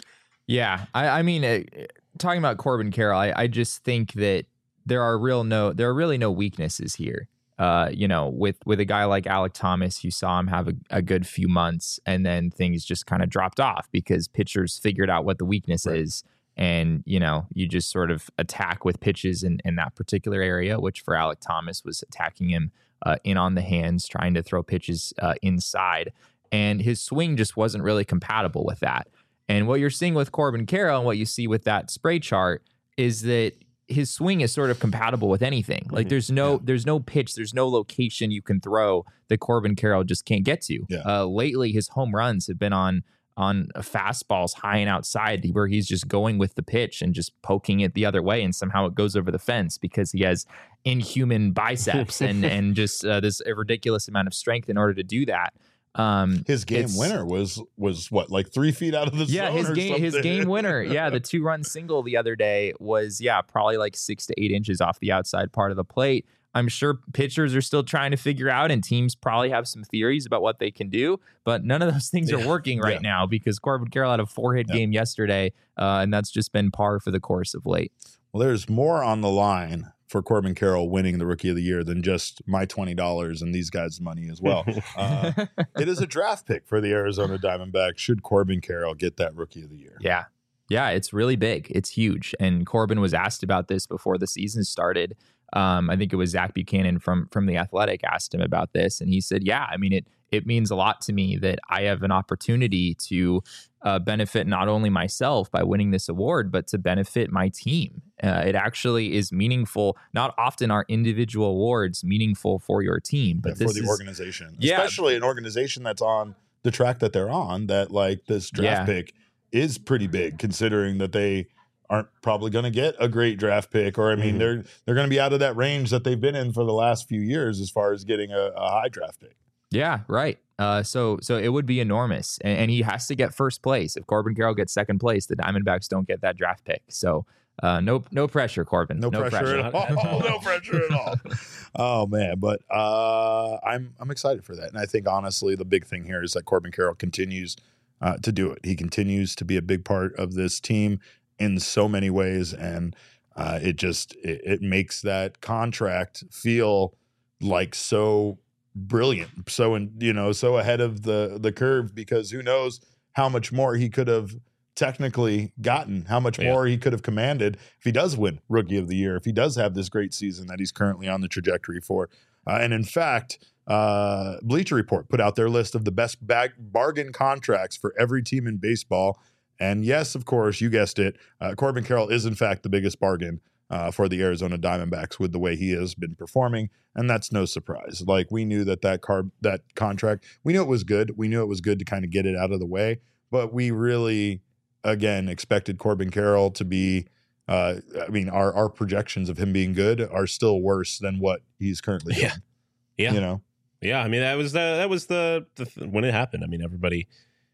Yeah, I, I mean, uh, talking about Corbin Carroll, I, I just think that there are real no, there are really no weaknesses here. Uh, you know, with with a guy like Alec Thomas, you saw him have a, a good few months, and then things just kind of dropped off because pitchers figured out what the weakness Right. is, and you know, you just sort of attack with pitches in in that particular area, which for Alec Thomas was attacking him uh, in on the hands, trying to throw pitches uh, inside, and his swing just wasn't really compatible with that. And what you're seeing with Corbin Carroll and what you see with that spray chart is that his swing is sort of compatible with anything. Like Mhm. there's no Yeah. there's no pitch, there's no location you can throw that Corbin Carroll just can't get to. Yeah. Uh, lately, his home runs have been on on fastballs high and outside where he's just going with the pitch and just poking it the other way, and somehow it goes over the fence because he has inhuman biceps and and just uh, this ridiculous amount of strength in order to do that. Um, His game It's- winner was was what, like three feet out of the yeah, zone his or game his something? game winner. Yeah, the two run single the other day was yeah probably like six to eight inches off the outside part of the plate. I'm sure pitchers are still trying to figure out, and teams probably have some theories about what they can do, but none of those things Yeah. are working right Yeah. now because Corbin Carroll had a four hit Yeah. game yesterday, uh, and that's just been par for the course of late. Well, there's more on the line for Corbin Carroll winning the Rookie of the Year than just my twenty dollars and these guys' money as well. Uh, it is a draft pick for the Arizona Diamondbacks should Corbin Carroll get that Rookie of the Year. Yeah. Yeah, it's really big. It's huge. And Corbin was asked about this before the season started. Um, I think it was Zach Buchanan from from The Athletic asked him about this. And he said, yeah, I mean, it it means a lot to me that I have an opportunity to uh, benefit not only myself by winning this award, but to benefit my team. Uh, it actually is meaningful. Not often are individual awards meaningful for your team, but Yeah, this for the is, organization, Yeah. especially an organization that's on the track that they're on, that like this draft Yeah. pick is pretty big considering that they aren't probably going to get a great draft pick, or I mean, Mhm. they're they're going to be out of that range that they've been in for the last few years as far as getting a, a high draft pick. Yeah, right. Uh, so so it would be enormous, and, and he has to get first place. If Corbin Carroll gets second place, the Diamondbacks don't get that draft pick. So uh, no no pressure, Corbin. No, pressure, at all. no pressure at all. Oh man, but uh, I'm I'm excited for that, and I think honestly, the big thing here is that Corbin Carroll continues uh, to do it. He continues to be a big part of this team in so many ways, and uh, it just it, it makes that contract feel like so brilliant, so in, you know, so ahead of the the curve, because who knows how much more he could have technically gotten, how much Yeah. more he could have commanded if he does win Rookie of the Year, if he does have this great season that he's currently on the trajectory for. Uh, and in fact, uh, Bleacher Report put out their list of the best bag- bargain contracts for every team in baseball. And yes, of course, you guessed it, uh, Corbin Carroll is in fact the biggest bargain uh, for the Arizona Diamondbacks with the way he has been performing, and that's no surprise. Like, we knew that that car that contract, we knew it was good. We knew it was good to kind of get it out of the way, but we really, again, expected Corbin Carroll to be. Uh, I mean, our our projections of him being good are still worse than what he's currently doing. Yeah. Yeah. You know. Yeah, I mean that was the that was the, the th- when it happened. I mean everybody.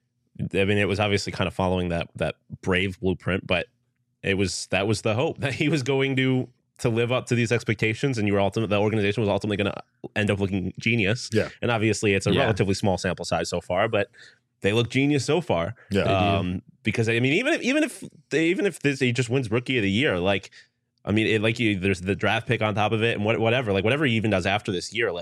I mean it was obviously kind of following that that brave blueprint, but it was that was the hope that he was going to to live up to these expectations, and you were ultimate. The organization was ultimately going to end up looking genius. Yeah. And obviously it's a Yeah. relatively small sample size so far, but they look genius so far. Yeah. Um, because I mean even if even if they, even if this he just wins Rookie of the Year, like. I mean, it, like you, there's the draft pick on top of it, and what, whatever, like whatever he even does after this year, like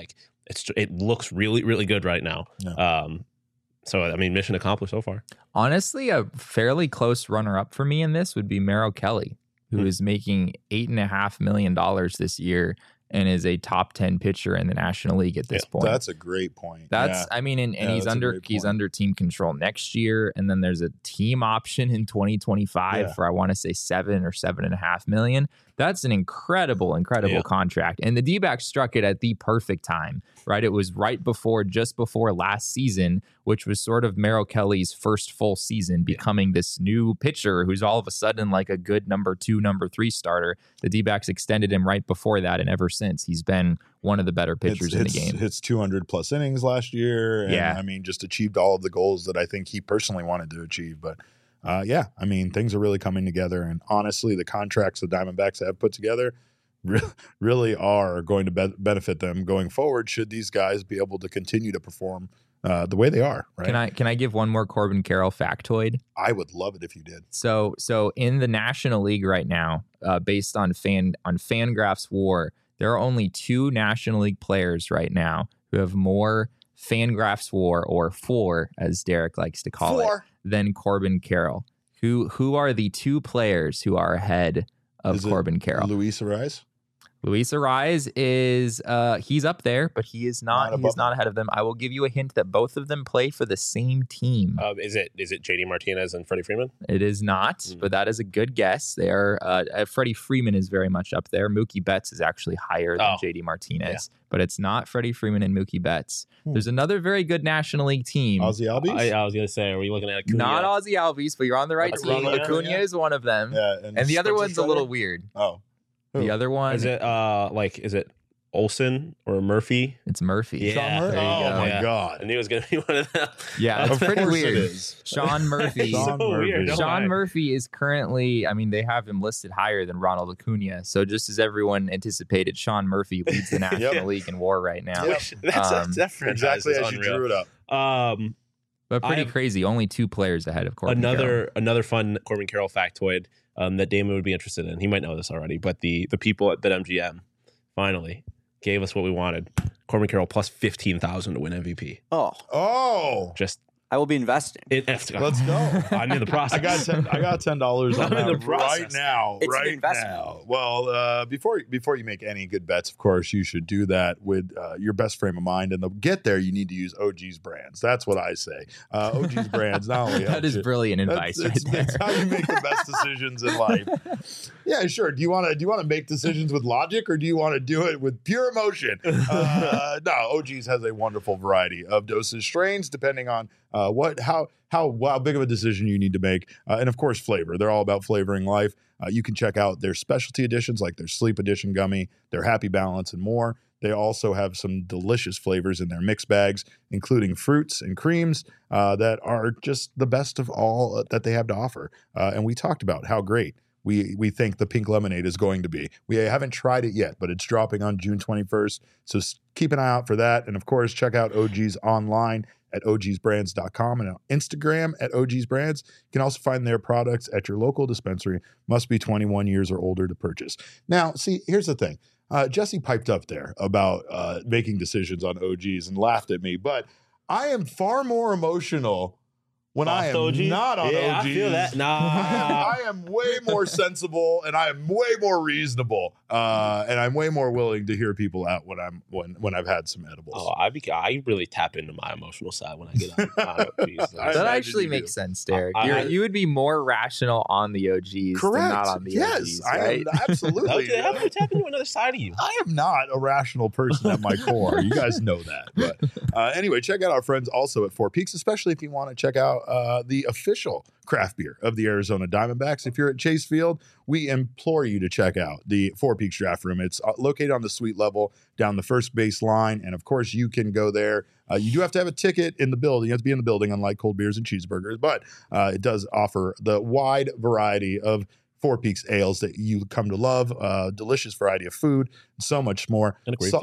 it's it looks really really good right now. Yeah. Um, so I mean, mission accomplished so far. Honestly, a fairly close runner-up for me in this would be Merrill Kelly, who Hmm. is making eight and a half million dollars this year and is a top ten pitcher in the National League at this Yeah, point. That's a great point. That's, Yeah. I mean, and, and Yeah, he's that's a under great he's point. under team control next year, and then there's a team option in twenty twenty-five Yeah. for I want to say seven or seven and a half million. That's an incredible, incredible Yeah. contract, and the D-backs struck it at the perfect time, right? It was right before, just before last season, which was sort of Merrill Kelly's first full season, becoming this new pitcher who's all of a sudden like a good number two, number three starter. The D-backs extended him right before that, and ever since he's been one of the better pitchers Hits- in the hits- game. Hits two hundred plus innings last year. And, Yeah. I mean, just achieved all of the goals that I think he personally wanted to achieve. But uh, yeah, I mean, things are really coming together. And honestly, the contracts the Diamondbacks have put together re- really are going to be- benefit them going forward should these guys be able to continue to perform uh, the way they are. Right. Can I can I give one more Corbin Carroll factoid? I would love it if you did. So so in the National League right now, uh, based on fan on Fangraphs WAR, there are only two National League players right now who have more Fangraphs WAR, or four as Derek likes to call it, than Corbin Carroll. Who who are the two players who are ahead of Is it Corbin Carroll? Luis Ariz? Luis Ariz is uh, he's up there, but he is Not not. above He is not ahead of them. I will give you a hint that both of them play for the same team. Um, is it is it J D Martinez and Freddie Freeman? It is not, Mm. but that is a good guess. They are. Uh, uh, Freddie Freeman is very much up there. Mookie Betts is actually higher than Oh. J D Martinez, but it's not Freddie Freeman and Mookie Betts. Hmm. There's another very good National League team. Ozzy Albies? I, I was gonna say, are we looking at Acuna? Not Ozzy Albies, but you're on the right That's team. Ronald Acuna Acuna. is one of them, yeah. and the other Spencer one's a Strider? little weird. Oh. The Who? other one, Is it uh like is it Olsen or Murphy? it's Murphy. Yeah. Sean Murphy? there you Oh go. my Yeah. I God. knew it was gonna be one of them. Yeah, Uh, it's pretty Of course weird. it is. Sean Murphy. Sean so Murphy. weird. don't Sean lie. Murphy is currently, I mean, they have him listed higher than Ronald Acuna. So just as everyone anticipated, Sean Murphy leads the National Yep. League in WAR right now. Yep. That's, Um, that franchise Exactly is as you unreal. drew it up. Um, But pretty I have- crazy. Only two players ahead of Corbin another Carroll. another fun Corbin Carroll factoid um, that Damon would be interested in. He might know this already, but the the people at BetMGM finally gave us what we wanted. Corbin Carroll plus fifteen thousand to win M V P. Oh, Oh. Just I will be investing. it, let's go. Let's go. I'm in the process. I got ten, I got ten dollars on I'm in that the process. right now. It's an right investment. now. Well, uh, before before you make any good bets, of course, you should do that with uh, your best frame of mind. And to get there, you need to use O G's brands. That's what I say. Uh, O G's brands not only That help is you- brilliant That's, advice right it's, there. it's how you make the best decisions in life. Yeah, sure. Do you want to do you want to make decisions with logic, or do you want to do it with pure emotion? Uh, no, O G's has a wonderful variety of dosage strains, depending on uh, what how how how big of a decision you need to make, uh, and of course, flavor. They're all about flavoring life. Uh, you can check out their specialty editions, like their Sleep Edition gummy, their Happy Balance, and more. They also have some delicious flavors in their mix bags, including fruits and creams uh, that are just the best of all that they have to offer. Uh, and we talked about how great we we think the pink lemonade is going to be. We haven't tried it yet, but it's dropping on June twenty-first. So s- keep an eye out for that. And of course, check out O G's online at O Gs brands dot com and on Instagram at O Gs brands. You can also find their products at your local dispensary. Must be twenty-one years or older to purchase. Now, see, here's the thing. Uh, Jesse piped up there about uh, making decisions on O Gs and laughed at me, but I am far more emotional when I Off am O Gs? not on Yeah, O Gs. I feel that. Nah. I am way more sensible and I am way more reasonable, uh, and I'm way more willing to hear people out when I'm when when I've had some edibles. Oh, I be, I really tap into my emotional side when I get on. on O Gs. I That imagine actually you makes do. sense, Derek. I- You're, I- you would be more rational on the O Gs Correct. than not on the yes, O Gs, I right? am absolutely. Okay, how do I tap into another side of you? I am not a rational person at my core. You guys know that. But uh, anyway, check out our friends also at Four Peaks, especially if you want to check out uh, the official craft beer of the Arizona Diamondbacks. If you're at Chase Field, we implore you to check out the Four Peaks Draft Room. It's uh, located on the suite level down the first base line. And of course, you can go there. Uh, you do have to have a ticket in the building. You have to be in the building, unlike cold beers and cheeseburgers. But uh, it does offer the wide variety of Four Peaks ales that you come to love, uh, delicious variety of food, and so much more. And a great Sa- view.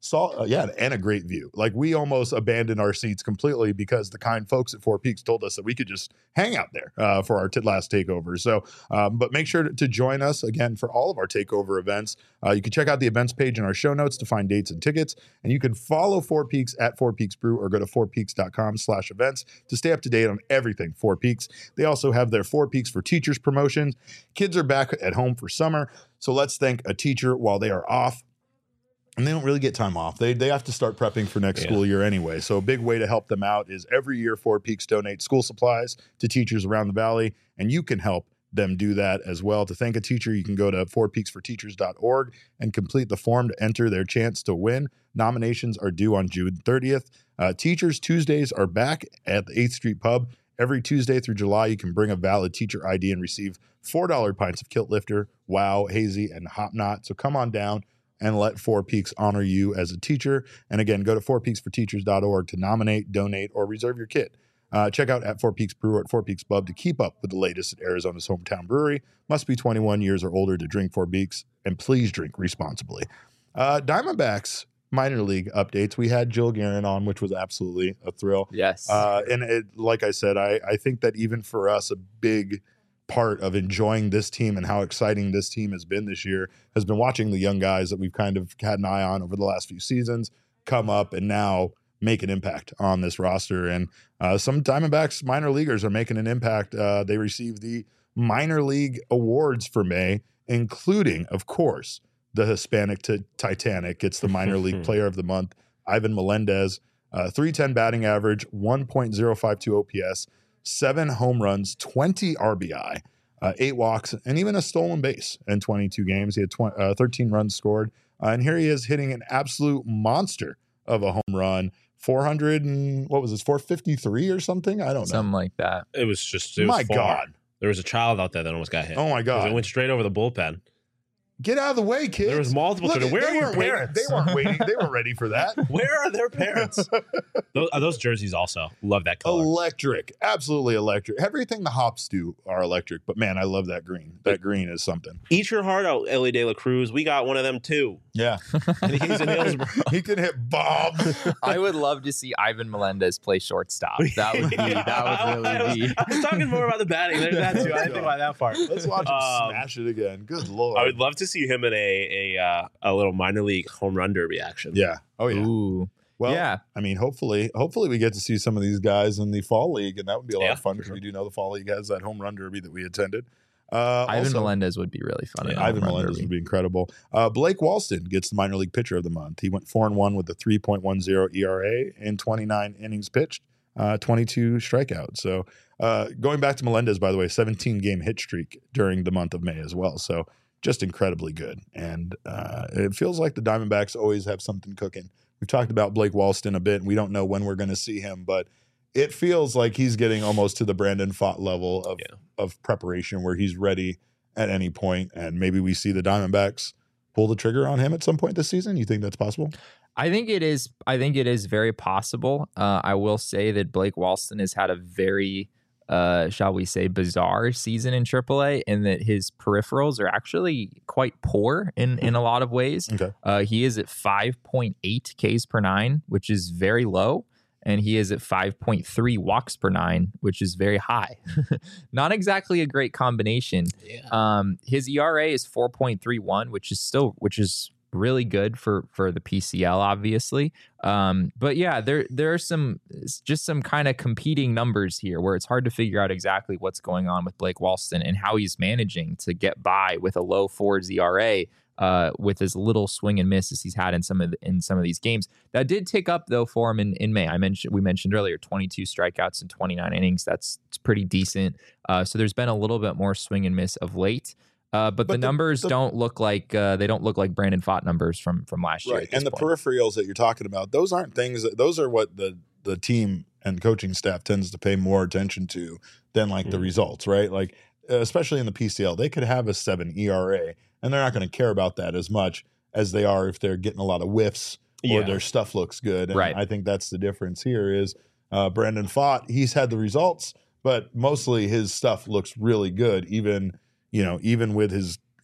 saw, uh, yeah, and a great view. Like we almost abandoned our seats completely because the kind folks at Four Peaks told us that we could just hang out there uh, for our t- last takeover. So, um, but make sure to, to join us again for all of our takeover events. Uh, you can check out the events page in our show notes to find dates and tickets, and you can follow Four Peaks at Four Peaks Brew or go to four peaks dot com slash events to stay up to date on everything Four Peaks. They also have their Four Peaks for Teachers promotions. Kids are back at home for summer, so let's thank a teacher while they are off. And they don't really get time off. They they have to start prepping for next yeah. school year anyway. So a big way to help them out is every year Four Peaks donates school supplies to teachers around the valley, and you can help them do that as well. To thank a teacher, you can go to four peaks for teachers dot org and complete the form to enter their chance to win. Nominations are due on June thirtieth. Uh, Teachers Tuesdays are back at the eighth Street Pub. Every Tuesday through July, you can bring a valid teacher I D and receive four dollar pints of Kilt Lifter, Wow, Hazy, and Hop Knot. So come on down and let Four Peaks honor you as a teacher. And again, go to four peaks for teachers dot org to nominate, donate, or reserve your kit. Uh, check out at Four Peaks Brew or at Four Peaks Pub to keep up with the latest at Arizona's hometown brewery. Must be twenty-one years or older to drink Four Peaks, and please drink responsibly. Uh, Diamondbacks minor league updates. We had Jill Guerin on, which was absolutely a thrill. Yes. Uh, and it, like I said, I, I think that even for us, a big part of enjoying this team and how exciting this team has been this year has been watching the young guys that we've kind of had an eye on over the last few seasons come up and now make an impact on this roster. And uh, some Diamondbacks minor leaguers are making an impact. Uh, they received the minor league awards for May, including, of course, the Hispanic to Titanic. It's the minor league player of the month, Ivan Melendez, uh, three ten batting average, one point oh five two O P S, seven home runs, twenty R B I, uh, eight walks, and even a stolen base in twenty-two games. He had tw- uh, thirteen runs scored. Uh, and here he is hitting an absolute monster of a home run. four hundred and what was this, four fifty-three or something? I don't know. Something like that. It was just, it was my far. God. There was a child out there that almost got hit. Oh my God. It went straight over the bullpen. Get out of the way, kids. There was multiple Look, children. Where they are your weren't waiting- parents? They weren't waiting. They weren't ready for that. Where are their parents? those, are those jerseys also. Love that color. Electric. Absolutely electric. Everything the Hops do are electric. But man, I love that green. That green is something. Eat your heart out, Ellie De La Cruz. We got one of them too. Yeah. And he's in Hillsborough. He can hit bombs. I would love to see Ivan Melendez play shortstop. That would be. That would I really was, be. I was talking more about the batting. There's that too. I didn't think about that part. Let's watch him Um, smash it again. Good Lord. I would love to see him in a a uh, a little minor league home run derby action. Yeah. Oh, yeah. Ooh. Well, yeah. I mean, hopefully, hopefully we get to see some of these guys in the fall league, and that would be a lot Yeah, of fun for because sure. we do know the fall league has that home run derby that we attended. Uh, Ivan also, Melendez would be really fun. Yeah, in a Ivan home run Melendez derby. would be incredible. Uh, Blake Walston gets the minor league pitcher of the month. He went four and one with a three point one oh E R A in twenty-nine innings pitched, uh, twenty-two strikeouts. So uh, going back to Melendez, by the way, seventeen game hit streak during the month of May as well. So just incredibly good. And uh, it feels like the Diamondbacks always have something cooking. We've talked about Blake Walston a bit. We don't know when we're going to see him, but it feels like he's getting almost to the Brandon Pfaadt level of, Yeah. of preparation where he's ready at any point, and maybe we see the Diamondbacks pull the trigger on him at some point this season. You think that's possible? I think it is. I think it is very possible. Uh, I will say that Blake Walston has had a very, uh, shall we say, bizarre season in triple A, and that his peripherals are actually quite poor in in a lot of ways. Okay. Uh, he is at five point eight Ks per nine, which is very low. And he is at five point three walks per nine, which is very high. Not exactly a great combination. Yeah. Um, his E R A is four point three one, which is still, which is really good for for the P C L, obviously. Um, but yeah, there there are some just some kind of competing numbers here where it's hard to figure out exactly what's going on with Blake Walston and how he's managing to get by with a low fours E R A. Uh, with as little swing and miss as he's had in some of the, in some of these games. That did tick up though for him in, in May. I mentioned we mentioned earlier twenty-two strikeouts in twenty-nine innings. That's it's pretty decent. Uh, so there's been a little bit more swing and miss of late. Uh, but, But the, the- numbers the- don't look like uh, they don't look like Brandon Pfaadt numbers from from last year. Right. at this And the point. peripherals that you're talking about, those aren't things that those are what the the team and coaching staff tends to pay more attention to than like the Mhm. results, right? Like uh, especially in the P C L, they could have a seven E R A and they're not going to care about that as much as they are if they're getting a lot of whiffs or Yeah. their stuff looks good. And Right. I think that's the difference here is uh, Brandon Pfaadt, he's had the results, but mostly his stuff looks really good, even, you know, even with his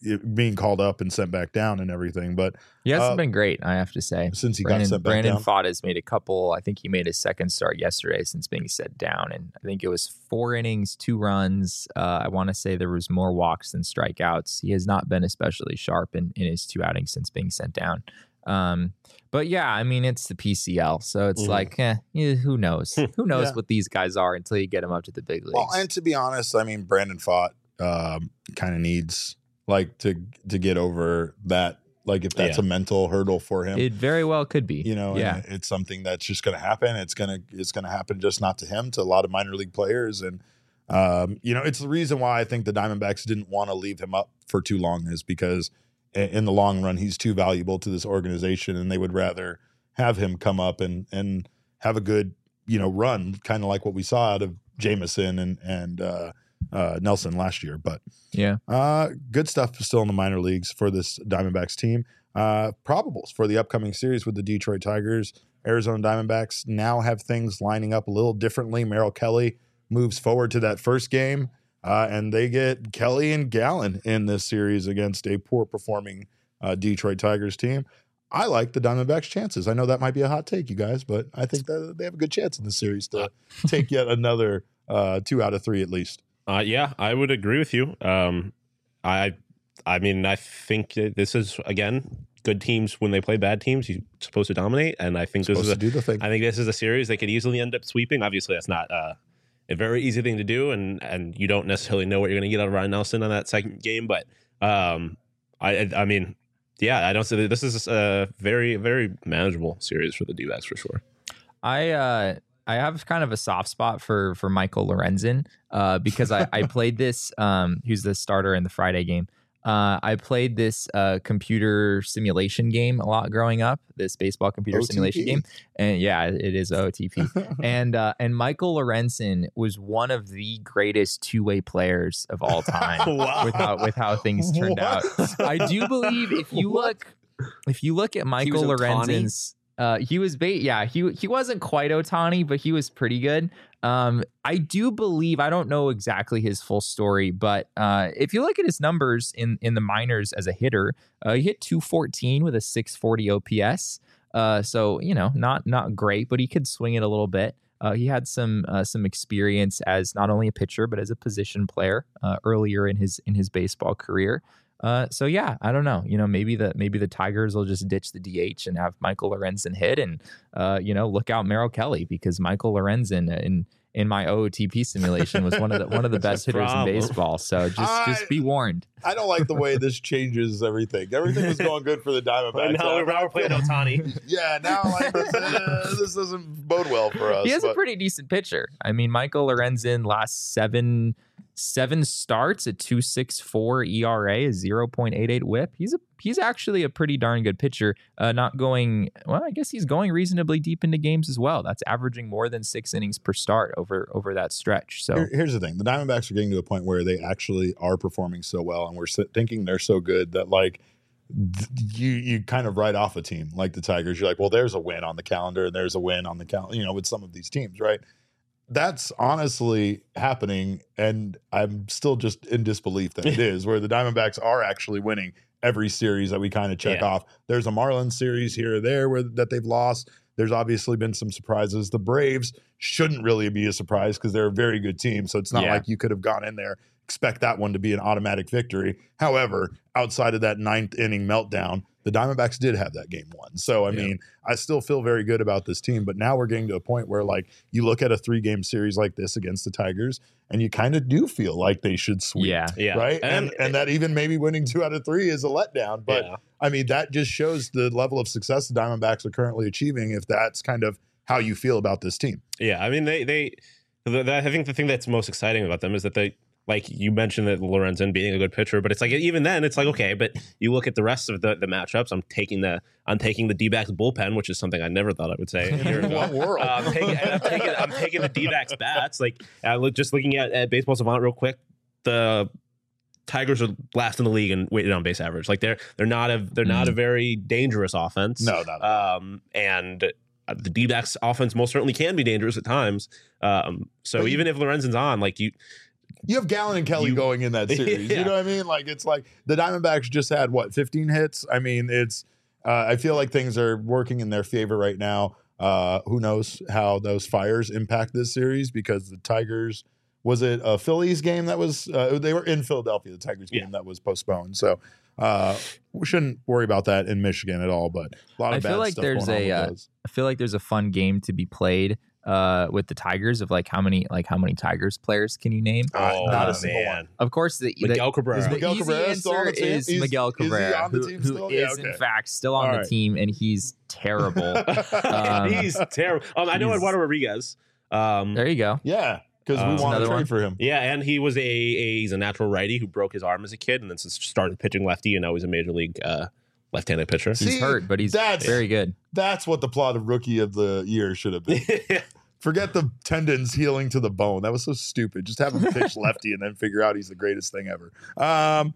it being called up and sent back down and everything. But he hasn't uh, been great, I have to say. Since he Brandon, got sent back Brandon down. Pfaadt has made a couple. I think he made his second start yesterday since being set down, and I think it was four innings, two runs. Uh, I want to say there was more walks than strikeouts. He has not been especially sharp in, in his two outings since being sent down. Um, but yeah, I mean, it's the P C L, so it's mm. like, eh, yeah, who knows? Who knows yeah. what these guys are until you get them up to the big leagues. Well, and to be honest, I mean, Brandon Pfaadt um, kind of needs like to to get over that. Like if that's yeah. a mental hurdle for him, it very well could be. You know, yeah, it's something that's just going to happen. It's gonna it's gonna happen just not to him, to a lot of minor league players, and um, you know, it's the reason why I think the Diamondbacks didn't want to leave him up for too long is because in the long run he's too valuable to this organization, and they would rather have him come up and and have a good you know run, kind of like what we saw out of Jameson and and. Uh, Uh, Nelson last year, but yeah, uh, good stuff still in the minor leagues for this Diamondbacks team. Uh, probables for the upcoming series with the Detroit Tigers. Arizona Diamondbacks now have things lining up a little differently. Merrill Kelly moves forward to that first game, uh, and they get Kelly and Gallen in this series against a poor performing uh, Detroit Tigers team. I like the Diamondbacks' chances. I know that might be a hot take, you guys, but I think that they have a good chance in this series to take yet another uh, two out of three at least. Uh, yeah, I would agree with you. Um, I, I mean, I think that this is again good teams when they play bad teams. You're supposed to dominate, and I think this is a, do the thing. I think this is a series they could easily end up sweeping. Obviously, that's not uh, a very easy thing to do, and and you don't necessarily know what you're going to get out of Ryan Nelson on that second game. But um, I, I mean, yeah, I don't say this is a very very manageable series for the D-backs for sure. I. Uh... I have kind of a soft spot for for Michael Lorenzen uh, because I, I played this. Um, who's the starter in the Friday game? Uh, I played this uh, computer simulation game a lot growing up. This baseball computer O T P simulation game, and yeah, it is O T P. and uh, and Michael Lorenzen was one of the greatest two way players of all time. Wow. with how with how things turned What? out. I do believe if you look if you look at Michael Lorenzen's. Uh, he was bait. Yeah, he he wasn't quite Ohtani, but he was pretty good. Um, I do believe, I don't know exactly his full story, but uh, if you look at his numbers in, in the minors as a hitter, uh, he hit two fourteen with a six forty O P S. Uh, so, you know, not not great, but he could swing it a little bit. Uh, he had some uh, some experience as not only a pitcher, but as a position player uh, earlier in his in his baseball career. Uh, so yeah, I don't know. You know, maybe the maybe the Tigers will just ditch the D H and have Michael Lorenzen hit, and uh, you know, look out Merrill Kelly, because Michael Lorenzen in in my O O T P simulation was one of the one of the best hitters problem. in baseball. So just I, just be warned. I don't like the way this changes everything. Everything was going good for the Diamondbacks. now, we're, now we're playing Ohtani. Yeah, now like this, uh, this doesn't bode well for us. He has but. a pretty decent pitcher. I mean, Michael Lorenzen last seven. Seven starts, a two point six four E R A, a zero point eight eight whip. He's a he's actually a pretty darn good pitcher. Uh, not going well. I guess he's going reasonably deep into games as well. That's averaging more than six innings per start over over that stretch. So Here, here's the thing: the Diamondbacks are getting to a point where they actually are performing so well, and we're thinking they're so good that like th- you you kind of write off a team like the Tigers. You're like, well, there's a win on the calendar, and there's a win on the calendar. You know, with some of these teams, right? That's honestly happening, and I'm still just in disbelief that it is, where the Diamondbacks are actually winning every series that we kind of check Yeah. off. There's a Marlins series here or there where that they've lost. There's obviously been some surprises. The Braves shouldn't really be a surprise because they're a very good team, so it's not Yeah. like you could have gone in there, expect that one to be an automatic victory. However, outside of that ninth inning meltdown, the Diamondbacks did have that game won. So, I Yeah. mean, I still feel very good about this team, but now we're getting to a point where, like, you look at a three-game series like this against the Tigers, and you kind of do feel like they should sweep, yeah, Yeah. right? And, And- and that even maybe winning two out of three is a letdown. But, Yeah. I mean, that just shows the level of success the Diamondbacks are currently achieving if that's kind of how you feel about this team. Yeah, I mean, they they. The, the, I think the thing that's most exciting about them is that they, like you mentioned, that Lorenzen being a good pitcher, but it's like even then it's like okay, but you look at the rest of the, the matchups. I'm taking the I'm taking the D-backs bullpen, which is something I never thought I would say. a year ago. What world? Uh, I'm, taking, I'm taking I'm taking the D-backs bats. Like uh, look, just looking at, at Baseball Savant real quick, the Tigers are last in the league in weighted on base average. Like they're they're not a they're not a very dangerous offense. No, not at Um, and the D-backs offense most certainly can be dangerous at times. Um, so But you- even if Lorenzen's on, like you, You have Gallen and Kelly You- going in that series. Yeah. You know what I mean? Like, it's like the Diamondbacks just had, what, fifteen hits? I mean, it's, uh, I feel like things are working in their favor right now. Uh, who knows how those fires impact this series because the Tigers, was it a Phillies game that was, uh, they were in Philadelphia, the Tigers game Yeah. that was postponed. So uh, we shouldn't worry about that in Michigan at all, but a lot of I bad feel like stuff there's going on a, with uh, those. I feel like there's a fun game to be played uh, with the Tigers of like how many like how many Tigers players can you name? Oh, not a single man. one. Of course, the, the Miguel Cabrera. Is The Miguel easy Cabrera still on the answer team? is Is- Miguel is he Cabrera, on the who, team who still? is Yeah, okay. in fact still on All the right. team, and he's terrible. Um, He's terrible. Um, I know he's- Eduardo Rodriguez. Um, there you go. Yeah, because Uh, we want to another trade one. for him. yeah, and he was a, a he's a natural righty who broke his arm as a kid, and then s- started pitching lefty, and now he's a major league uh, left-handed pitcher. He's See, hurt, but he's that's- very good. That's what the plot of Rookie of the Year should have been. Forget the tendons healing to the bone. That was so stupid. Just have him pitch lefty and then figure out he's the greatest thing ever. Um,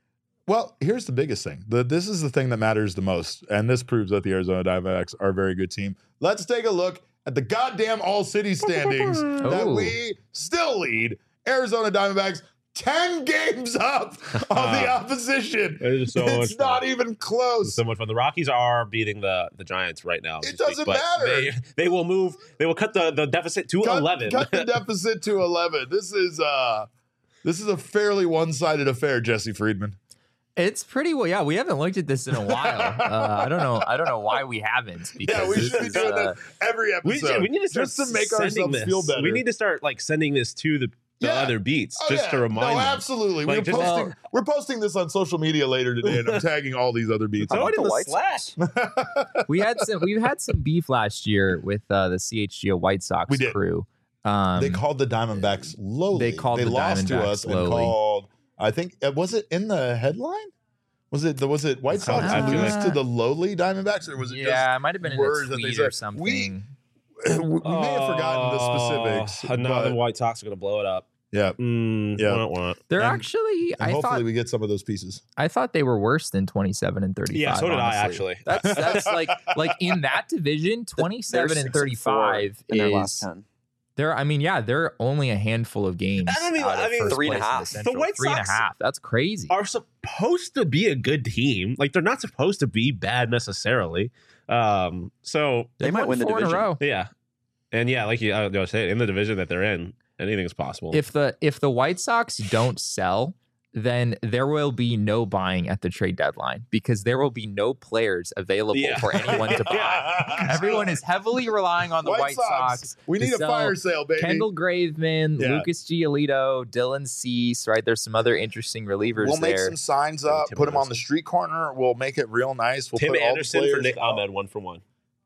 well, here's the biggest thing. The, this is the thing that matters the most, and this proves that the Arizona Diamondbacks are a very good team. Let's take a look at the goddamn All-City standings that Oh. we still lead. Arizona Diamondbacks ten games up on the opposition. It is so it's much not fun. even close. So much fun. The Rockies are beating the, the Giants right now. as It we speak, doesn't but matter. They, they will move. They will cut the, the deficit to cut, eleven. cut the deficit to eleven. This is uh this is a fairly one-sided affair, Jesse Friedman. It's pretty well. Yeah, we haven't looked at this in a while. Uh, I don't know. I don't know why we haven't. Because Yeah, we this should be is, doing uh, that every we, episode. we need to start just to make sending ourselves this. feel better. We need to start like sending this to the, the Yeah. other beats Oh, just yeah. to remind No, them. absolutely. Like, we're just- posting Well- we're posting this on social media later today, and I'm tagging all these other beats. Throw How it in about the the White slash. we had some. We've had some beef last year with uh, the C H G O White Sox We did. crew. Um, They called the Diamondbacks lowly. They called they the lost to Diamondbacks us lowly. and called. I think uh, was it in the headline? Was it the was it White Sox I feel lose like- to the lowly Diamondbacks, or was it yeah, it might have been in a words that they tweet said? or something. We- just? We, we may have forgotten the specifics. Oh, now the but- White Sox are going to blow it up. yeah, Mm, Yeah. wah, wah. They're And- actually. and I hopefully thought. we get some of those pieces. I thought they were worse than twenty-seven and thirty-five. Yeah, so did I, honestly. actually. That's that's like like in that division, twenty-seven They're and six and four thirty-five in their last is. ten. They're, I mean, yeah, they're only a handful of games. I mean- out of I mean, first three and a place in half. The, The Central. White three and a Sox half. That's crazy. Are supposed to be a good team. Like they're not supposed to be bad necessarily. Um, so They They've might won win the four in a division. row. yeah, and yeah, like you, I was saying, in the division that they're in, anything's possible. If the if the White Sox don't sell, then there will be no buying at the trade deadline because there will be no players available Yeah. for anyone to buy. Yeah. Everyone is heavily relying on the White, Sox. We to need a sell fire sale, baby. Kendall Graveman, Yeah. Lucas Giolito, Dylan Cease, right? There's some other interesting relievers We'll make there. some signs Maybe up, Tim put them on Anderson. the street corner. We'll make it real nice. We'll Tim put all the Anderson for players Nick out. Ahmed, one for one.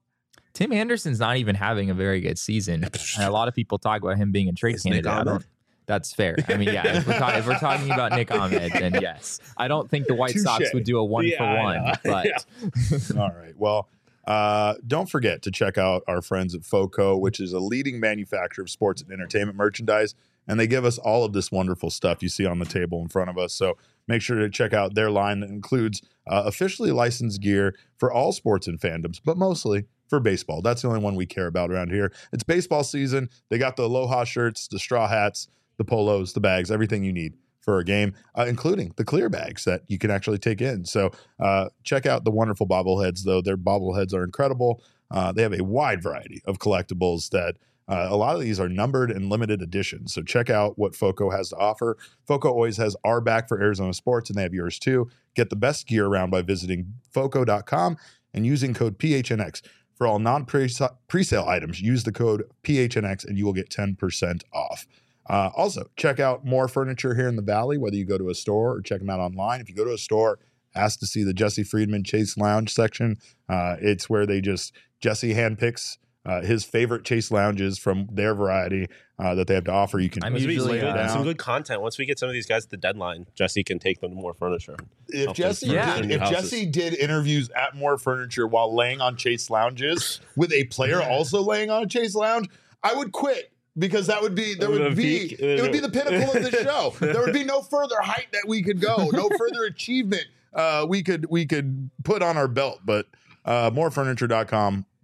Tim Anderson's not even having a very good season. And a lot of people talk about him being a trade Is Nick candidate. I Ahmed? don't. That's fair. I mean, yeah, if we're, ta- if we're talking about Nick Ahmed, then yes. I don't think the White Touche. Sox would do a one Yeah, for I one, know. but Yeah. All right. Well, uh, don't forget to check out our friends at FOCO, which is a leading manufacturer of sports and entertainment merchandise. And they give us all of this wonderful stuff you see on the table in front of us. So make sure to check out their line that includes uh, officially licensed gear for all sports and fandoms, but mostly for baseball. That's the only one we care about around here. It's baseball season. They got the Aloha shirts, the straw hats, the polos, the bags, everything you need for a game, uh, including the clear bags that you can actually take in. So uh, check out the wonderful bobbleheads, though. Their bobbleheads are incredible. Uh, they have a wide variety of collectibles that uh, a lot of these are numbered and limited editions. So check out what FOCO has to offer. FOCO always has our back for Arizona sports, and they have yours too. Get the best gear around by visiting foco dot com and using code P H N X. For all non-presale items, use the code P H N X and you will get ten percent off. Uh, also, check out more furniture here in the Valley, whether you go to a store or check them out online. If you go to a store, ask to see the Jesse Friedman Chase Lounge section. Uh, it's where they just, Jesse handpicks uh, his favorite Chase lounges from their variety uh, that they have to offer. You can I'm Once we usually, get uh, some good content. Once we get some of these guys at the deadline, Jesse can take them to more furniture. If Help Jesse, them Yeah. furnish did, their if new houses. Jesse did interviews at More Furniture while laying on Chase lounges with a player also laying on a Chase lounge, I would quit because that would be there It would would be peak. it would be the pinnacle of the show. There would be no further height that we could go, no further achievement uh, we could we could put on our belt. But uh, more furniture dot com,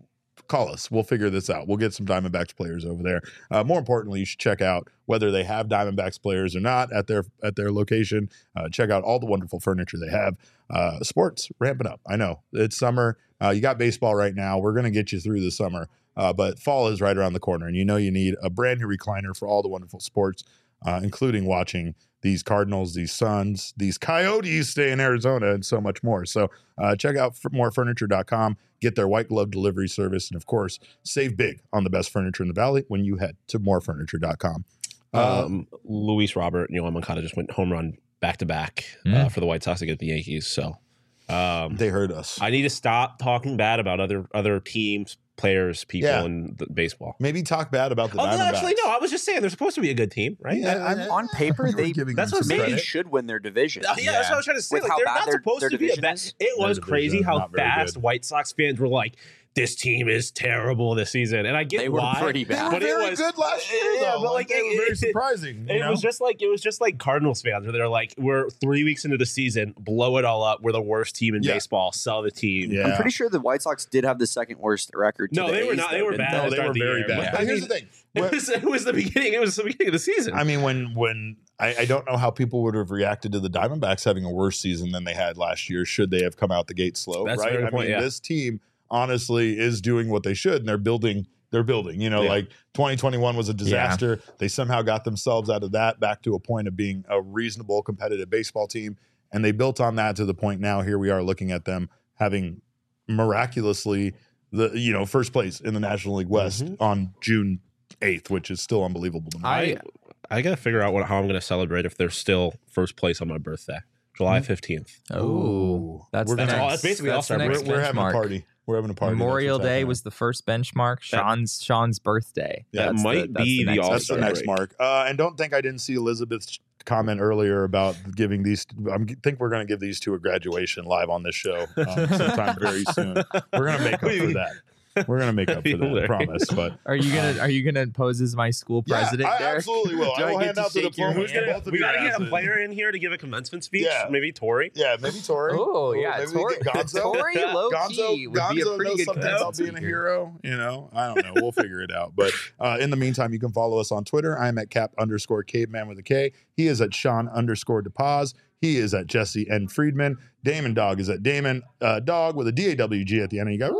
call us. We'll figure this out. We'll get some Diamondbacks players over there. Uh, more importantly, you should check out whether they have Diamondbacks players or not at their at their location. Uh, check out all the wonderful furniture they have. Uh, sports ramping up. I know it's summer. Uh, you got baseball right now. We're going to get you through the summer, uh, but fall is right around the corner, and you know you need a brand new recliner for all the wonderful sports, uh, including watching these Cardinals, these Suns, these Coyotes stay in Arizona, and so much more. So uh, check out more furniture dot com, get their white glove delivery service, and of course, save big on the best furniture in the Valley when you head to more furniture dot com. Uh, Um, Luis Robert and Yoan Moncada just went home run back to back uh, Mm. for the White Sox against the Yankees. So um, they heard us. I need to stop talking bad about other other teams, players, people Yeah. in the baseball. Maybe talk bad about the Oh, no, Diamondbacks. actually, no. I was just saying they're supposed to be a good team, right? Yeah, I- I- I- On paper, You were they giving that's them what some I'm maybe credit. should win their division. Oh, yeah, that's what I was trying to say. With Like, how they're bad not their- supposed their to be a division bad. is. It was Their crazy division, how not very fast good. White Sox fans were like, "This team is terrible this season," and I get They were why. pretty They bad. were But it very was- good last year, Yeah, though. but, Like, like, they were it- very it- surprising. You It know? was just like it was just like Cardinals fans where they're like, "We're three weeks into the season, blow it all up. We're the worst team in Yeah. baseball. Sell the team." Yeah. I'm pretty sure the White Sox did have the second worst record. To No, the they were A's, not. They though, were didn't bad. no, at the they start were of the very year. bad. But, But I here's mean, the thing. It When- was, it was the beginning. It was the beginning of the season. I mean, when when I, I don't know how people would have reacted to the Diamondbacks having a worse season than they had last year. Should they have come out the gate slow? That's a right? very good I point, mean, yeah. this team honestly is doing what they should, and they're building. They're building. You know, Yeah. like twenty twenty-one was a disaster. They somehow got themselves out of that back to a point of being a reasonable, competitive baseball team, and they built on that to the point now. Here we are looking at them having miraculously the you know first place in the National League West Mhm. on June eighth, which is still unbelievable to me. I I gotta figure out what how I'm gonna celebrate if they're still first place on my birthday, July fifteenth. Oh, that's We're the gonna- next, all- that's basically that's all-star the we're, next break. we're having a benchmark. party. We're having a party. Memorial That's what's Day happening. was the first benchmark. Sean's Sean's birthday. That That's might that's be the next all-star That's the birthday. next mark. Uh, and don't think I didn't see Elizabeth's comment earlier about giving these. I think we're going to give these two a graduation live on this show um, sometime very soon. We're going to make up for that. We're going to make up for that. I Hilarious. promise. But Are you gonna Are you gonna pose as my school president? yeah, I Derek? absolutely will. Do I I will get hand to out the shake your diploma. Who's to gonna, both of we your gotta get a asses. player in here to give a commencement speech. Yeah. Maybe Tori. Yeah, maybe Tori. Oh Ooh, yeah, maybe we Tori, get Gonzo. Tori low Gonzo, key would Gonzo be a pretty knows good something about commencement being a speaker. hero. You know, I don't know. We'll figure it out. But uh, in the meantime, you can follow us on Twitter. I'm at cap underscore caveman with a K. He is at Sean underscore DePaz. He is at Jesse N. Friedman. Damon Dog is at Damon uh, Dog with a D A W G at the end. And you got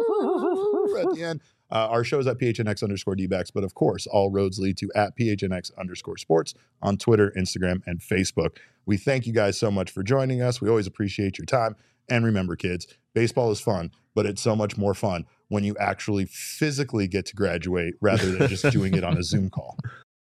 at the end. Uh, our show is at P H N X underscore D-backs, but of course, all roads lead to at P H N X underscore sports on Twitter, Instagram, and Facebook. We thank you guys so much for joining us. We always appreciate your time. And remember, kids, baseball is fun, but it's so much more fun when you actually physically get to graduate rather than just doing it on a Zoom call.